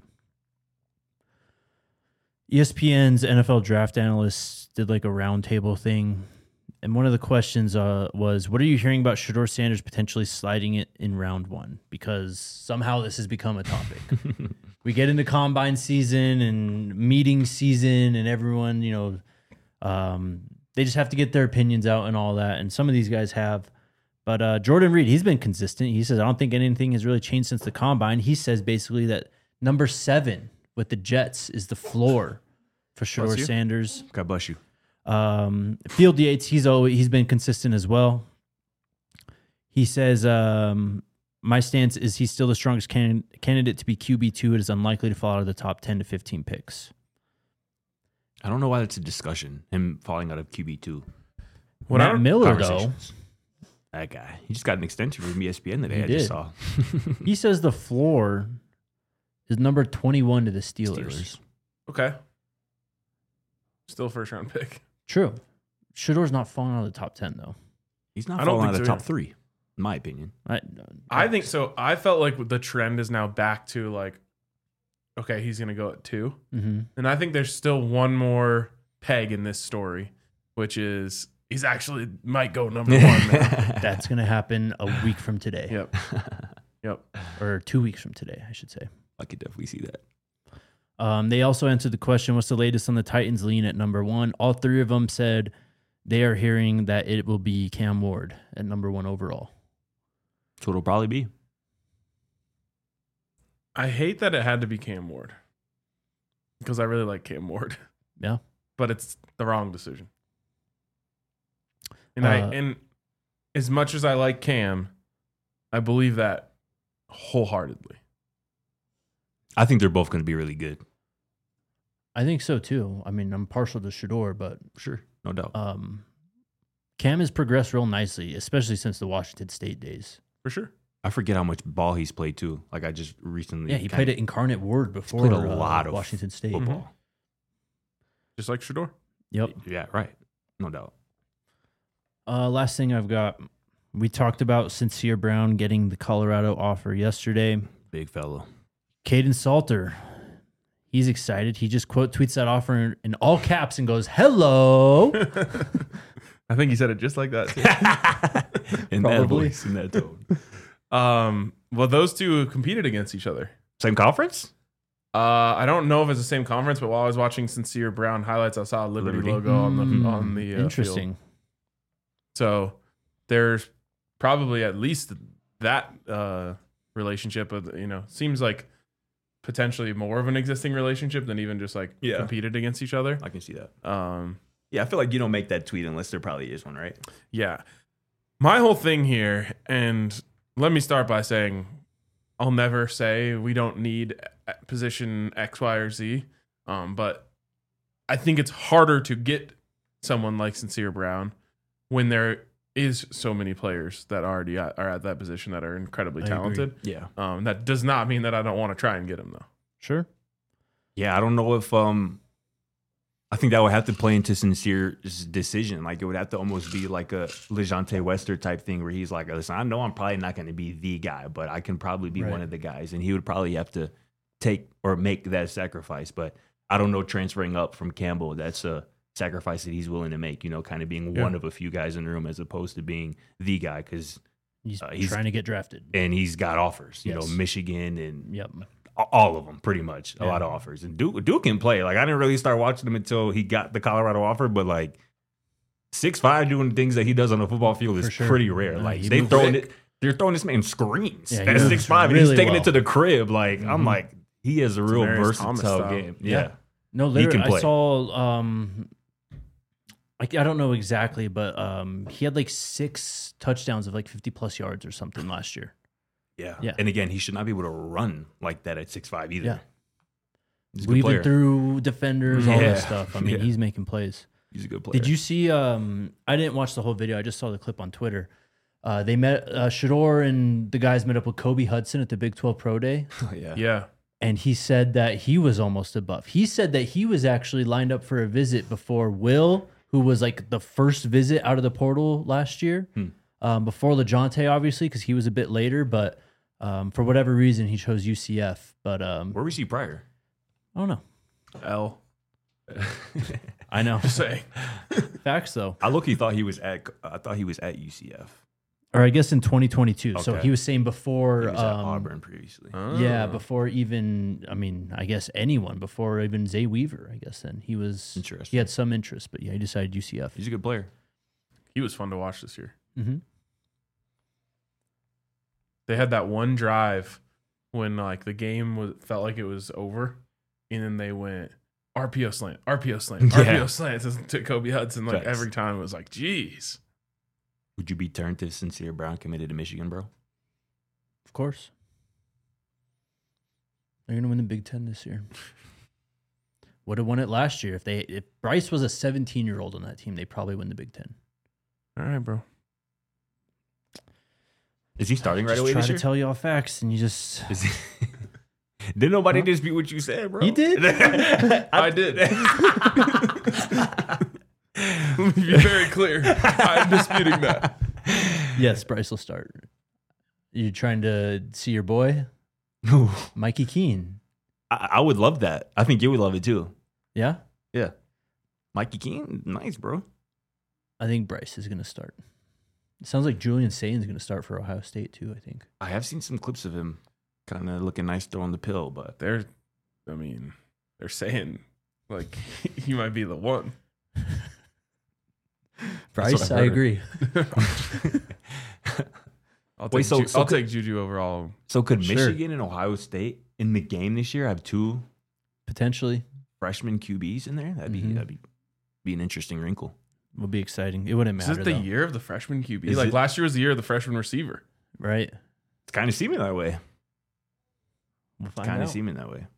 E S P N's N F L draft analysts did like a roundtable thing, and one of the questions uh, was, "What are you hearing about Shedeur Sanders potentially sliding it in round one?" Because somehow this has become a topic. We get into combine season and meeting season, and everyone, you know, um, they just have to get their opinions out and all that. And some of these guys have. But uh, Jordan Reed, he's been consistent. He says, I don't think anything has really changed since the combine. He says basically that number seven with the Jets is the floor for Bless Shedeur you. Sanders. God bless you. Um, Field Yates, he's always he's been consistent as well. He says, um, my stance is he's still the strongest can- candidate to be Q B two. It is unlikely to fall out of the top ten to fifteen picks. I don't know why that's a discussion, him falling out of Q B two. What I Matt don't- Miller, though, Conversations. That guy. He just got an extension from E S P N today, He I just did. saw. he says the floor is number twenty-one to the Steelers. Steelers. Okay. Still first round pick. True. Shedeur's not falling out of the top ten, though. He's not I don't falling out think of so the top either. three, in my opinion. I, I think so. I felt like the trend is now back to like, okay, he's gonna go at two. hmm And I think there's still one more peg in this story, which is he's actually might go number one now. That's going to happen a week from today. Yep. Yep. Or two weeks from today, I should say. I could definitely see that. Um, they also answered the question, what's the latest on the Titans lean at number one? All three of them said they are hearing that it will be Cam Ward at number one overall. That's what it'll probably be. I hate that it had to be Cam Ward because I really like Cam Ward, Yeah. but it's the wrong decision. And I Uh, and as much as I like Cam, I believe that wholeheartedly. I think they're both going to be really good. I think so too. I mean, I'm partial to Shedeur, but Sure. No doubt. um, Cam has progressed real nicely, especially since the Washington State days. For sure. I forget how much ball he's played too. Like I just recently. Yeah, he kinda played at Incarnate Word before played a uh, lot of Washington State. football. Just like Shedeur. Yep. Yeah, right. No doubt. Uh, last thing I've got, we talked about Sincere Brown getting the Colorado offer yesterday. Big fellow. Caden Salter, he's excited. He just quote tweets that offer in, in all caps and goes, "Hello." I think he said it just like that too. In that Probably. voice, in that tone. Um, well, those two competed against each other. Same conference? Uh, I don't know if it's the same conference, but while I was watching Sincere Brown highlights, I saw a Liberty, Liberty. logo on the Mm, on the uh, interesting. field. So there's probably at least that uh, relationship. Of you know, seems like potentially more of an existing relationship than even just like Yeah. competed against each other. I can see that. Um, Yeah, I feel like you don't make that tweet unless there probably is one, right? yeah. My whole thing here, and let me start by saying I'll never say we don't need position X, Y, or Z, um, but I think it's harder to get someone like Sincere Brown when there is so many players that already at, are at that position that are incredibly I agree. talented. Yeah. Um, that does not mean that I don't want to try and get him, though. Sure. Yeah, I don't know if um I think that would have to play into Sincere's decision. Like it would have to almost be like a LeJontay Wester type thing where he's like, listen, I know I'm probably not going to be the guy, but I can probably be Right. one of the guys. And he would probably have to take or make that sacrifice. But I don't know, transferring up from Campbell, that's a sacrifice that he's willing to make, you know, kind of being Yeah. one of a few guys in the room as opposed to being the guy. Because He's, Uh, he's- trying to get drafted. and he's got offers, you Yes. know, Michigan and Yep. all of them, pretty much. A Yeah. lot of offers. And Duke, Duke can play. Like, I didn't really start watching him until he got the Colorado offer, but like six five doing things that he does on the football field is For sure. pretty rare. Yeah, like, he they moves throwing quick. it, they're throwing this man screens Yeah, he at moves six five, and really he's taking well. it to the crib. Like, I'm Mhm. like, he has a real Demarius Thomas versatile style. game. Yeah. Yeah. No, He literally, can play. I saw. Um, like I don't know exactly, but um, he had like six touchdowns of like fifty plus yards or something last year. Yeah. Yeah. And again, he should not be able to run like that at six five either. Yeah. He's a good Weaving player. through defenders, all Yeah. this stuff. I mean, Yeah. he's making plays. He's a good player. Did you see? Um, I didn't watch the whole video. I just saw the clip on Twitter. Uh, they met uh, Shador and the guys met up with Kobe Hudson at the Big twelve Pro Day, yeah. Yeah. and he said that he was almost a buff. He said that he was actually lined up for a visit before Will, who was like the first visit out of the portal last year, Hmm. um, before LeJontay, obviously, because he was a bit later. But um, for whatever reason, he chose U C F. But um, Where was he prior? I don't know. L. I know. Just saying. Facts, though. I look, he thought he was at, I thought he was at U C F. Or I guess in twenty twenty-two. So Okay. he was saying before. He was at um, Auburn previously. Yeah, Oh. before even, I mean, I guess anyone, before even Zay Weaver, I guess then. He was, Interesting. he had some interest, but yeah, he decided U C F. He's a good player. He was fun to watch this year. Mm-hmm. They had that one drive when like the game was felt like it was over, and then they went R P O slant, R P O slant, Yeah. R P O slant to, to Kobe Hudson. Like Facts. every time it was like, geez. Would you be turned if Sincere Brown committed to Michigan, bro? Of course. They're going to win the Big Ten this year. Would have won it last year. If they if Bryce was a seventeen-year-old on that team, they probably win the Big Ten. All right, bro. Is he starting right Just away try this to year? tell you all facts, and you just... Is he- Did nobody dispute what you said, bro? He did? I did. Let me be very clear. I'm disputing that. Yes, Bryce will start. You trying to see your boy? Ooh, Mikey Keene. I, I would love that. I think you would love it too. Yeah? Yeah. Mikey Keene, nice, bro. I think Bryce is going to start. It sounds like Julian Sain's going to start for Ohio State, too, I think. I have seen some clips of him kind of looking nice throwing the pill, but They're, I mean, they're saying like he might be the one. Bryce, I've I heard. agree. I'll take, Wait, so- Ju- so I'll could- take Juju overall. so could Sure. Michigan and Ohio State in the game this year have two Potentially. freshman Q Bs in there? That'd be Mhm. that'd be, be an interesting wrinkle. Would be exciting. It wouldn't Is matter, it the though, year of the freshman Q B? Is Like it- last year was the year of the freshman receiver. right? It's kind of seeming that way. We'll find Kind of out. seeming that way.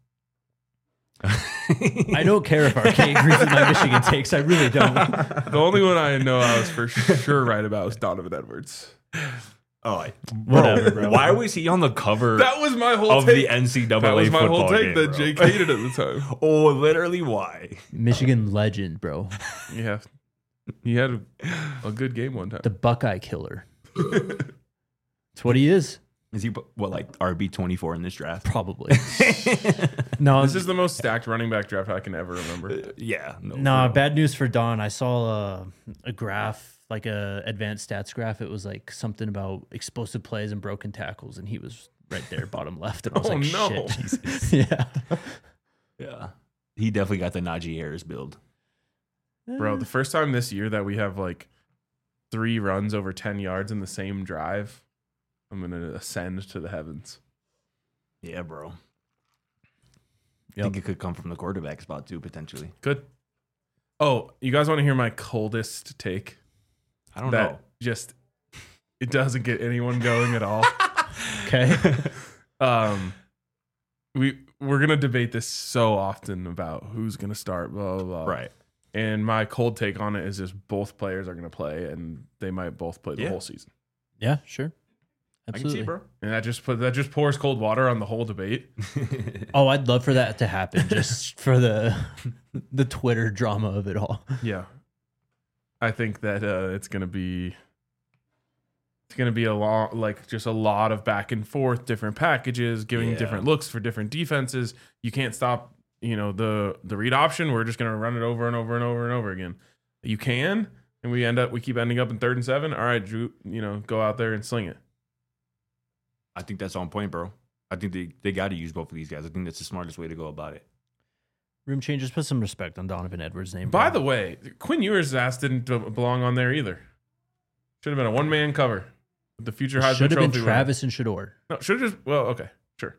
I don't care if Arcade agrees with my Michigan takes. I really don't. The only one I know I was for sure right about was Donovan Edwards. Oh, I, Whatever, bro. Why was he on the cover That was my whole of take. the N C double A that was my football whole take game, that bro? Jake hated at the time. Oh, literally, why? Michigan legend, bro. Yeah, he had a, a good game one time. The Buckeye killer. That's what he is. Is he what like R B twenty four in this draft? Probably. no, This is the most stacked running back draft I can ever remember. Yeah, no. no, for real. bad news for Don. I saw a, a graph, like a advanced stats graph. It was like something about explosive plays and broken tackles, and he was right there, bottom left. And I was Oh, like, no. shit. yeah. Yeah, he definitely got the Najee Harris build. Bro, the first time this year that we have like three runs over ten yards in the same drive, I'm going to ascend to the heavens. Yeah, bro. I Yep. think it could come from the quarterback spot too, potentially. Good. Oh, you guys want to hear my coldest take? I don't that know. just it doesn't get anyone going at all. Okay. Um, we we're gonna debate this so often about who's gonna start, blah blah blah. Right. And my cold take on it is just both players are gonna play, and they might both play the Yeah. whole season. Yeah, sure. I can Absolutely. see, bro. And that just put that just pours cold water on the whole debate. Oh, I'd love for that to happen just for the the Twitter drama of it all. Yeah, I think that uh, it's gonna be it's gonna be a lot like just a lot of back and forth, different packages, giving Yeah. different looks for different defenses. You can't stop, you know, the the read option. We're just gonna run it over and over and over and over again. You can, and we end up we keep ending up in third and seven. All right, Drew, you know, go out there and sling it. I think that's on point, bro. I think they, they got to use both of these guys. I think that's the smartest way to go about it. Room changers, put some respect on Donovan Edwards' name. By bro. the way, Quinn Ewers' ass didn't belong on there either. Should have been a one man cover with the future Heisman should have been Trophy winner. Travis and Shador. No, should have just well, okay, sure.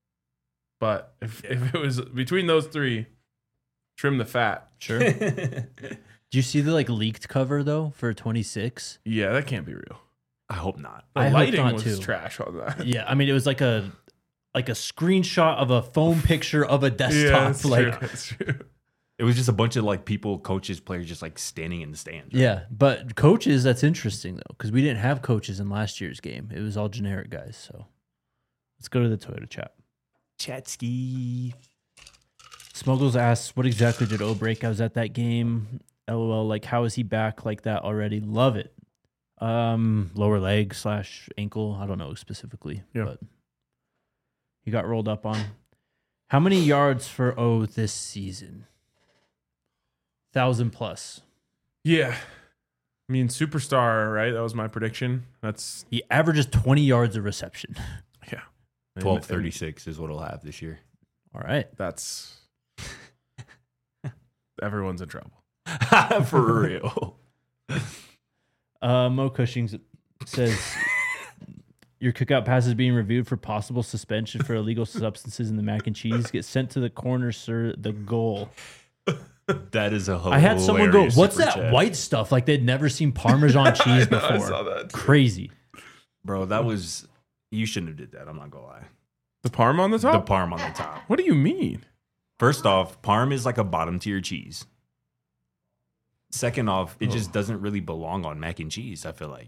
But if if it was between those three, trim the fat. Sure. Do you see the like leaked cover though for twenty-six? Yeah, that can't be real. I hope not. The I hope lighting not, was too. trash on that. Yeah, I mean it was like a like a screenshot of a phone picture of a Yeah, desktop. that's like true. That's true. It was just a bunch of like people, coaches, players just like standing in the stands. right? yeah, but coaches, that's interesting though, because we didn't have coaches in last year's game. It was all generic guys. So let's go to the Toyota chat. Chatsky. Smuggles asks, what exactly did O break? I was at that game. LOL, like how is he back like that already? Love it. Um, lower leg slash ankle. I don't know specifically, Yeah. but he got rolled up on. How many yards for O this season? Thousand plus. Yeah. I mean, superstar, right? That was my prediction. That's He averages twenty yards of reception. yeah. And- twelve and thirty-six is what he'll have this year. All right. That's everyone's in trouble. For real. Uh, Mo Cushing says your cookout pass is being reviewed for possible suspension for illegal substances in the mac and cheese. Get sent to the corner, sir. The goal. That is a hilarious I had someone go, "What's super that chat." white stuff?" Like they'd never seen Parmesan cheese before. I saw that. too. Crazy. Bro, that was, you shouldn't have did that. I'm not going to lie. The parm on the The top? parm on the top. What do you mean? First off, parm is like a bottom tier cheese. Second off, it just doesn't really belong on mac and cheese, I feel like.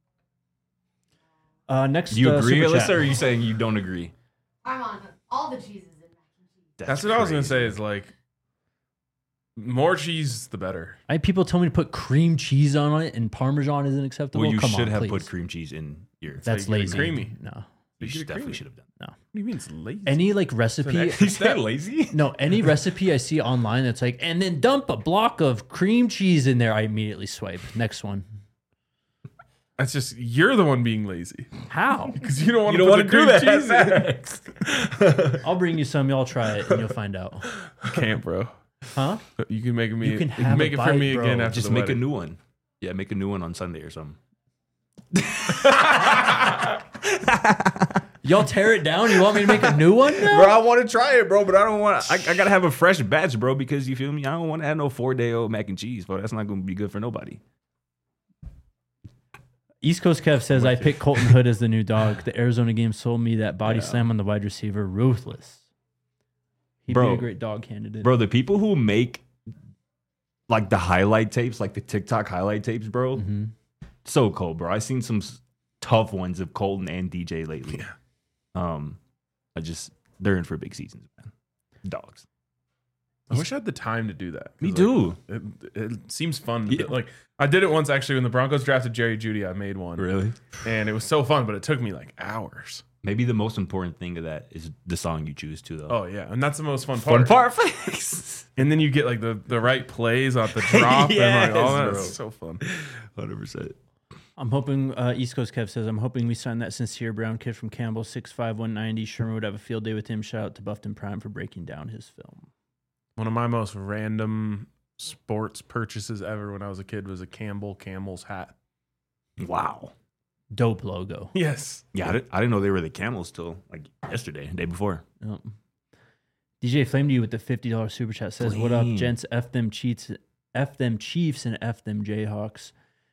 Uh, next, Do you uh, agree, super Alyssa, chat. or are you saying you don't agree? I'm on all the cheeses in mac and cheese. That's, what I was gonna crazy. say. Is like more cheese, the better. I had people tell me to put cream cheese on it, and Parmesan isn't acceptable. Well, you Come should on, have please. put cream cheese in your. That's how you get it lazy. creamy. No. you You should, get it definitely creamy. should have done. No. What do you mean it's lazy? Any like recipe. Is that lazy? No, any recipe I see online that's like, and then dump a block of cream cheese in there, I immediately swipe. Next one. That's just you're the one being lazy How? because you don't want You to don't put want the to do cream that. cheese in. I'll bring you some. Y'all try it, and you'll find out. You can't, bro. Huh? You can make me. You can you have make a it for bite, me bro. again after Just the make wedding. a new one. Yeah, make a new one on Sunday or something. Y'all tear it down. You want me to make a new one now? Bro, I want to try it, bro, but I don't want. I, I gotta have a fresh batch, bro, because you feel me. I don't want to have no four day old mac and cheese, bro. That's not gonna be good for nobody. East Coast Kev says I picked Colton Hood as the new dog. The Arizona game sold me that body slam on the wide receiver. Ruthless. He'd Bro. be a great dog candidate. Bro, the people who make like the highlight tapes, like the TikTok highlight tapes, bro, hmm so cold, bro. I've seen some s- tough ones of Colton and D J lately. Um, I just they're in for big seasons, man. Dogs. I wish I had the time to do that. 'Cause, Me like, too. It, it seems fun. To Yeah. do- Like I did it once actually when the Broncos drafted Jerry Jeudy. I made one, Really? and it was so fun, but it took me like hours. Maybe the most important thing of that is the song you choose to, though. Oh yeah, and that's the most fun part. Fun part, Flex. And then you get like the, the right plays off the drop and like all Yes, that. bro. It's so fun. Hundred percent. I'm hoping, uh, East Coast Kev says, I'm hoping we sign that sincere brown kid from Campbell, six five, one ninety. Sherman would have a field day with him. Shout out to Buffton Prime for breaking down his film. One of my most random sports purchases ever when I was a kid was a Campbell Camel's hat. Wow. Dope logo. Yes. Yeah, I didn't, I didn't know they were the Camels till like yesterday, day before. Yep. D J Flame to you with the fifty dollars super chat says, what up, Flame. gents? F them cheats, F them Chiefs and F them Jayhawks.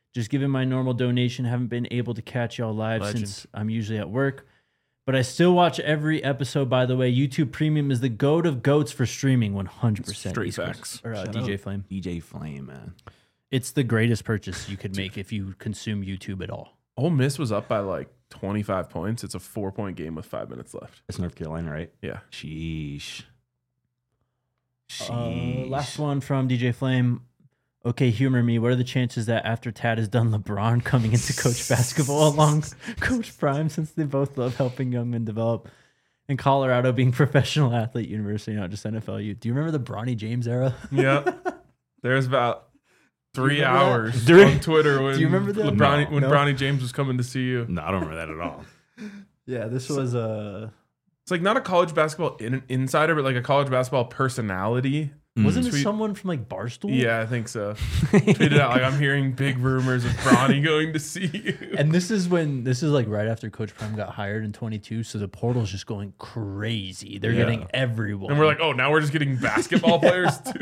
Just giving my normal donation. Haven't been able to catch y'all live Legend. since I'm usually at work. But I still watch every episode, by the way. YouTube Premium is the goat of goats for streaming, one hundred percent. Straight East Coast- facts. Or uh, Shout D J out. Flame. D J Flame, man. It's the greatest purchase you could make if you consume YouTube at all. Ole Miss was up by like twenty-five points. It's a four point game with five minutes left. That's North Carolina, right? Yeah. Sheesh. Uh, Sheesh. last one from D J Flame. Okay, humor me. What are the chances that after Tad is done, LeBron coming into coach basketball along Coach Prime, since they both love helping young men develop, and Colorado being professional athlete university, not just N F L U? Do you remember the Bronny James era? Yep. There's about three remember that? hours Do you- on Twitter when Do you remember that? LeBron, No. when No. Bronny James was coming to see you. No, I don't remember that at all. Yeah, this was uh It's like not a college basketball in, insider, but like a college basketball personality. wasn't it Tweet- someone from like Barstool? Yeah, I think so. Tweeted out like I'm hearing big rumors of Bronny going to see you. And this is when this is like right after Coach Prime got hired in twenty-two, so the portal's just going crazy. They're Yeah. getting everyone. And we're like, oh, now we're just getting basketball players too.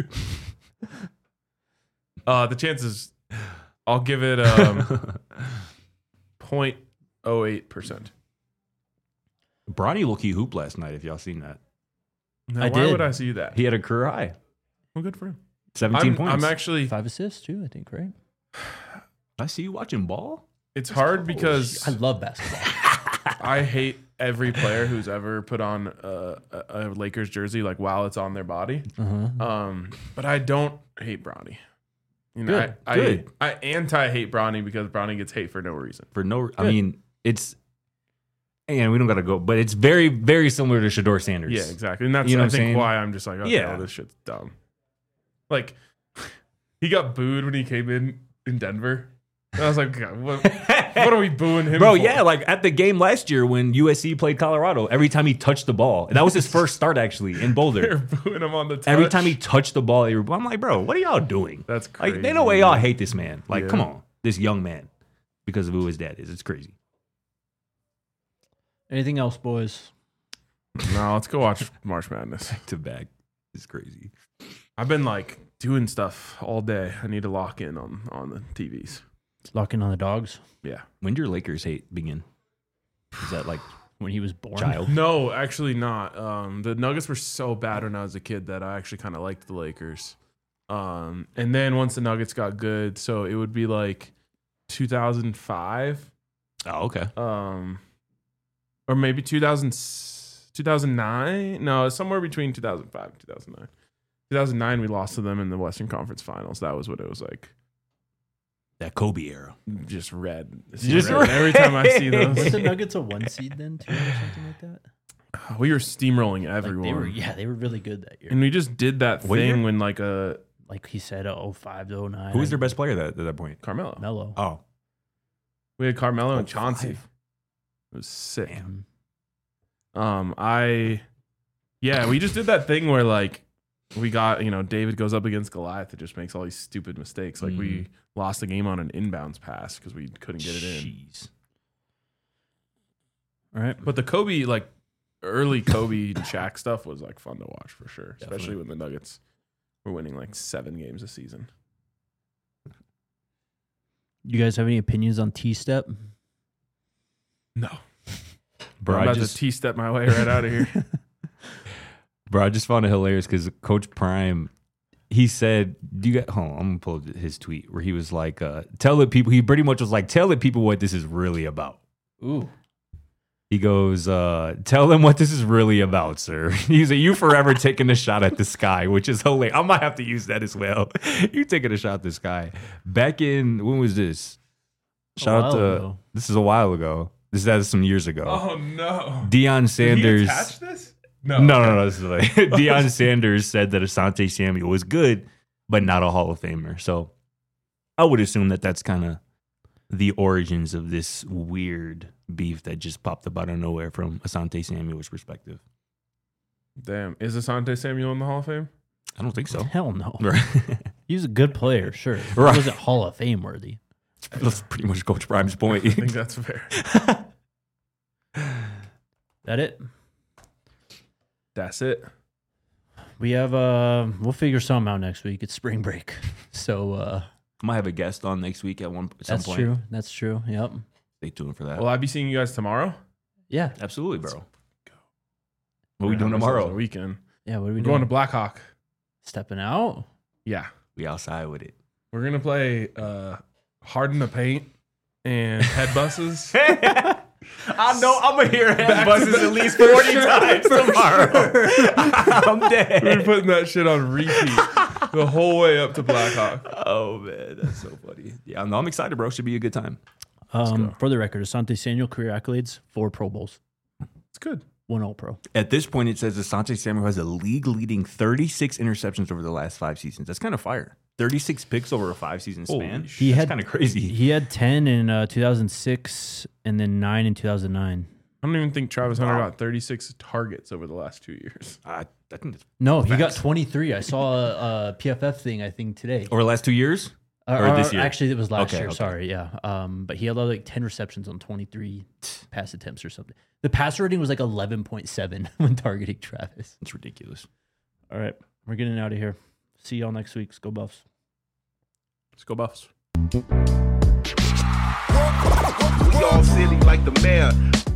Uh, the chances, I'll give it um, zero point zero eight percent. Bronny low-key hoop last night, if y'all seen that. Now, I why did. would I see that? He had a career high. Well, good for him. seventeen I'm, points. I'm actually. five assists too, I think, right? I see you watching ball. It's hard because I love basketball. I hate every player who's ever put on a, a, a Lakers jersey like while it's on their body. Uh-huh. Um, but I don't hate Bronny. You know, Good, I, good. I I anti-hate Bronny because Bronny gets hate for no reason. For no, I Good. mean, it's, and we don't got to go, but it's very, very similar to Shador Sanders. Yeah, exactly. And that's You know I what I'm think saying? why I'm just like, okay, Yeah. well, this shit's dumb. Like he got booed when he came in in Denver. And I was like, God, what, what are we booing him Bro, for? yeah, like at the game last year when U S C played Colorado, every time he touched the ball, and that was his first start actually in They're Boulder. booing him on the touch. Every time he touched the ball, they were, I'm like, bro, what are y'all doing? That's crazy. Like, they know way y'all hate this man. Like, Yeah. come on, this young man, because of who his dad is. It's crazy. Anything else, boys? No, let's go watch March Madness. To back, it's crazy. I've been like doing stuff all day. I need to lock in on on the T Vs. Locking on the dogs Yeah. When did your Lakers hate begin? Is that like when he was born. child? No, actually not. Um, the Nuggets were so bad when I was a kid that I actually kind of liked the Lakers. Um, and then once the Nuggets got good, so it would be like two thousand five, Oh, okay. um, or maybe two thousand, two thousand nine. No, somewhere between two thousand five and two thousand nine. two thousand nine, we lost to them in the Western Conference Finals. That was what it was like. That Kobe era. Just red. Just red. Every time I see Was those, the Nuggets a one seed then too, or something like that? we were steamrolling Like everyone. they were, yeah, they were really good that year. And we just did that What thing year? when like a Like he said, oh five to oh nine. Who was their best player that, at that point? Carmelo. Mellow. Oh, We had Carmelo and Oh, Chauncey. five. It was sick. Damn. Um, I, yeah, we just did that thing where like we got, you know, David goes up against Goliath that just makes all these stupid mistakes. Like we lost the game on an inbounds pass because we couldn't get it in. Jeez. All right. But the Kobe, like early Kobe and Shaq stuff was like fun to watch for sure, especially Definitely. when the Nuggets were winning like seven games a season. You guys have any opinions on T-Step? No, Bro, I'm I about just, to T-step my way right out of here. bro, I just found it hilarious because Coach Prime, he said, "Do you get?" Hold on, I'm gonna pull his tweet where he was like, uh, "Tell the people." He pretty much was like, "Tell the people what this is really about." Ooh. He goes, uh, "Tell them what this is really about, sir." He's like, "You forever taking a shot at the sky," which is hilarious. I might have to use that as well. You taking a shot at the sky. Back in when was this? Shout out while to ago. this is a while ago. This is that is some years ago. Oh no! Deion Sanders. Did he attach this? No, no, no, no. This is like Deion Sanders said that Asante Samuel was good, but not a Hall of Famer. So I would assume that that's kind of the origins of this weird beef that just popped up out of nowhere from Asante Samuel's perspective. Damn, is Asante Samuel in the Hall of Fame? I don't think so. Hell no. Right. He was a good player, sure. He Right. wasn't Hall of Fame worthy. That's pretty much Coach Prime's point. I think that's fair. That it? That's it. We have uh we'll figure something out next week. It's spring break. So uh I might have a guest on next week at one at some That's point. true. That's true. Yep. Stay tuned for that. Will I be seeing you guys tomorrow? Yeah. Absolutely, bro. go. What are we doing Have ourselves tomorrow? a Weekend. Yeah. What are we We're doing? going to Blackhawk. Stepping out. Yeah. We outside with it. We're gonna play uh, Harden the Paint and Head Buses. I know I'm gonna hear head Back to buses back. at least forty times tomorrow. I'm We're dead. putting that shit on repeat the whole way up to Blackhawk. Oh man, that's so funny. Yeah, no, I'm excited, bro. Should be a good time. Um, go. for the record, Asante Samuel career accolades: four Pro Bowls, It's good. one All Pro. At this point, it says Asante Samuel has a league-leading thirty-six interceptions over the last five seasons. That's kind of fire. thirty-six picks over a five-season Holy span. shit. He That's had kind of crazy. He had ten in uh, two thousand six and then nine in two thousand nine. I don't even think Travis Hunter Wow. got thirty-six targets over the last two years. I, I think that's No, he got Facts. twenty-three. I saw a, a P F F thing, I think, today. over the last two years. Uh, or this year? Actually, it was last Okay, year. okay. Sorry, yeah. Um, but he had like ten receptions on twenty-three pass attempts or something. The pass rating was like eleven point seven when targeting Travis. It's ridiculous. All right, we're getting out of here. See y'all next week. Go Buffs. Let's go Buffs. We all silly like the mayor.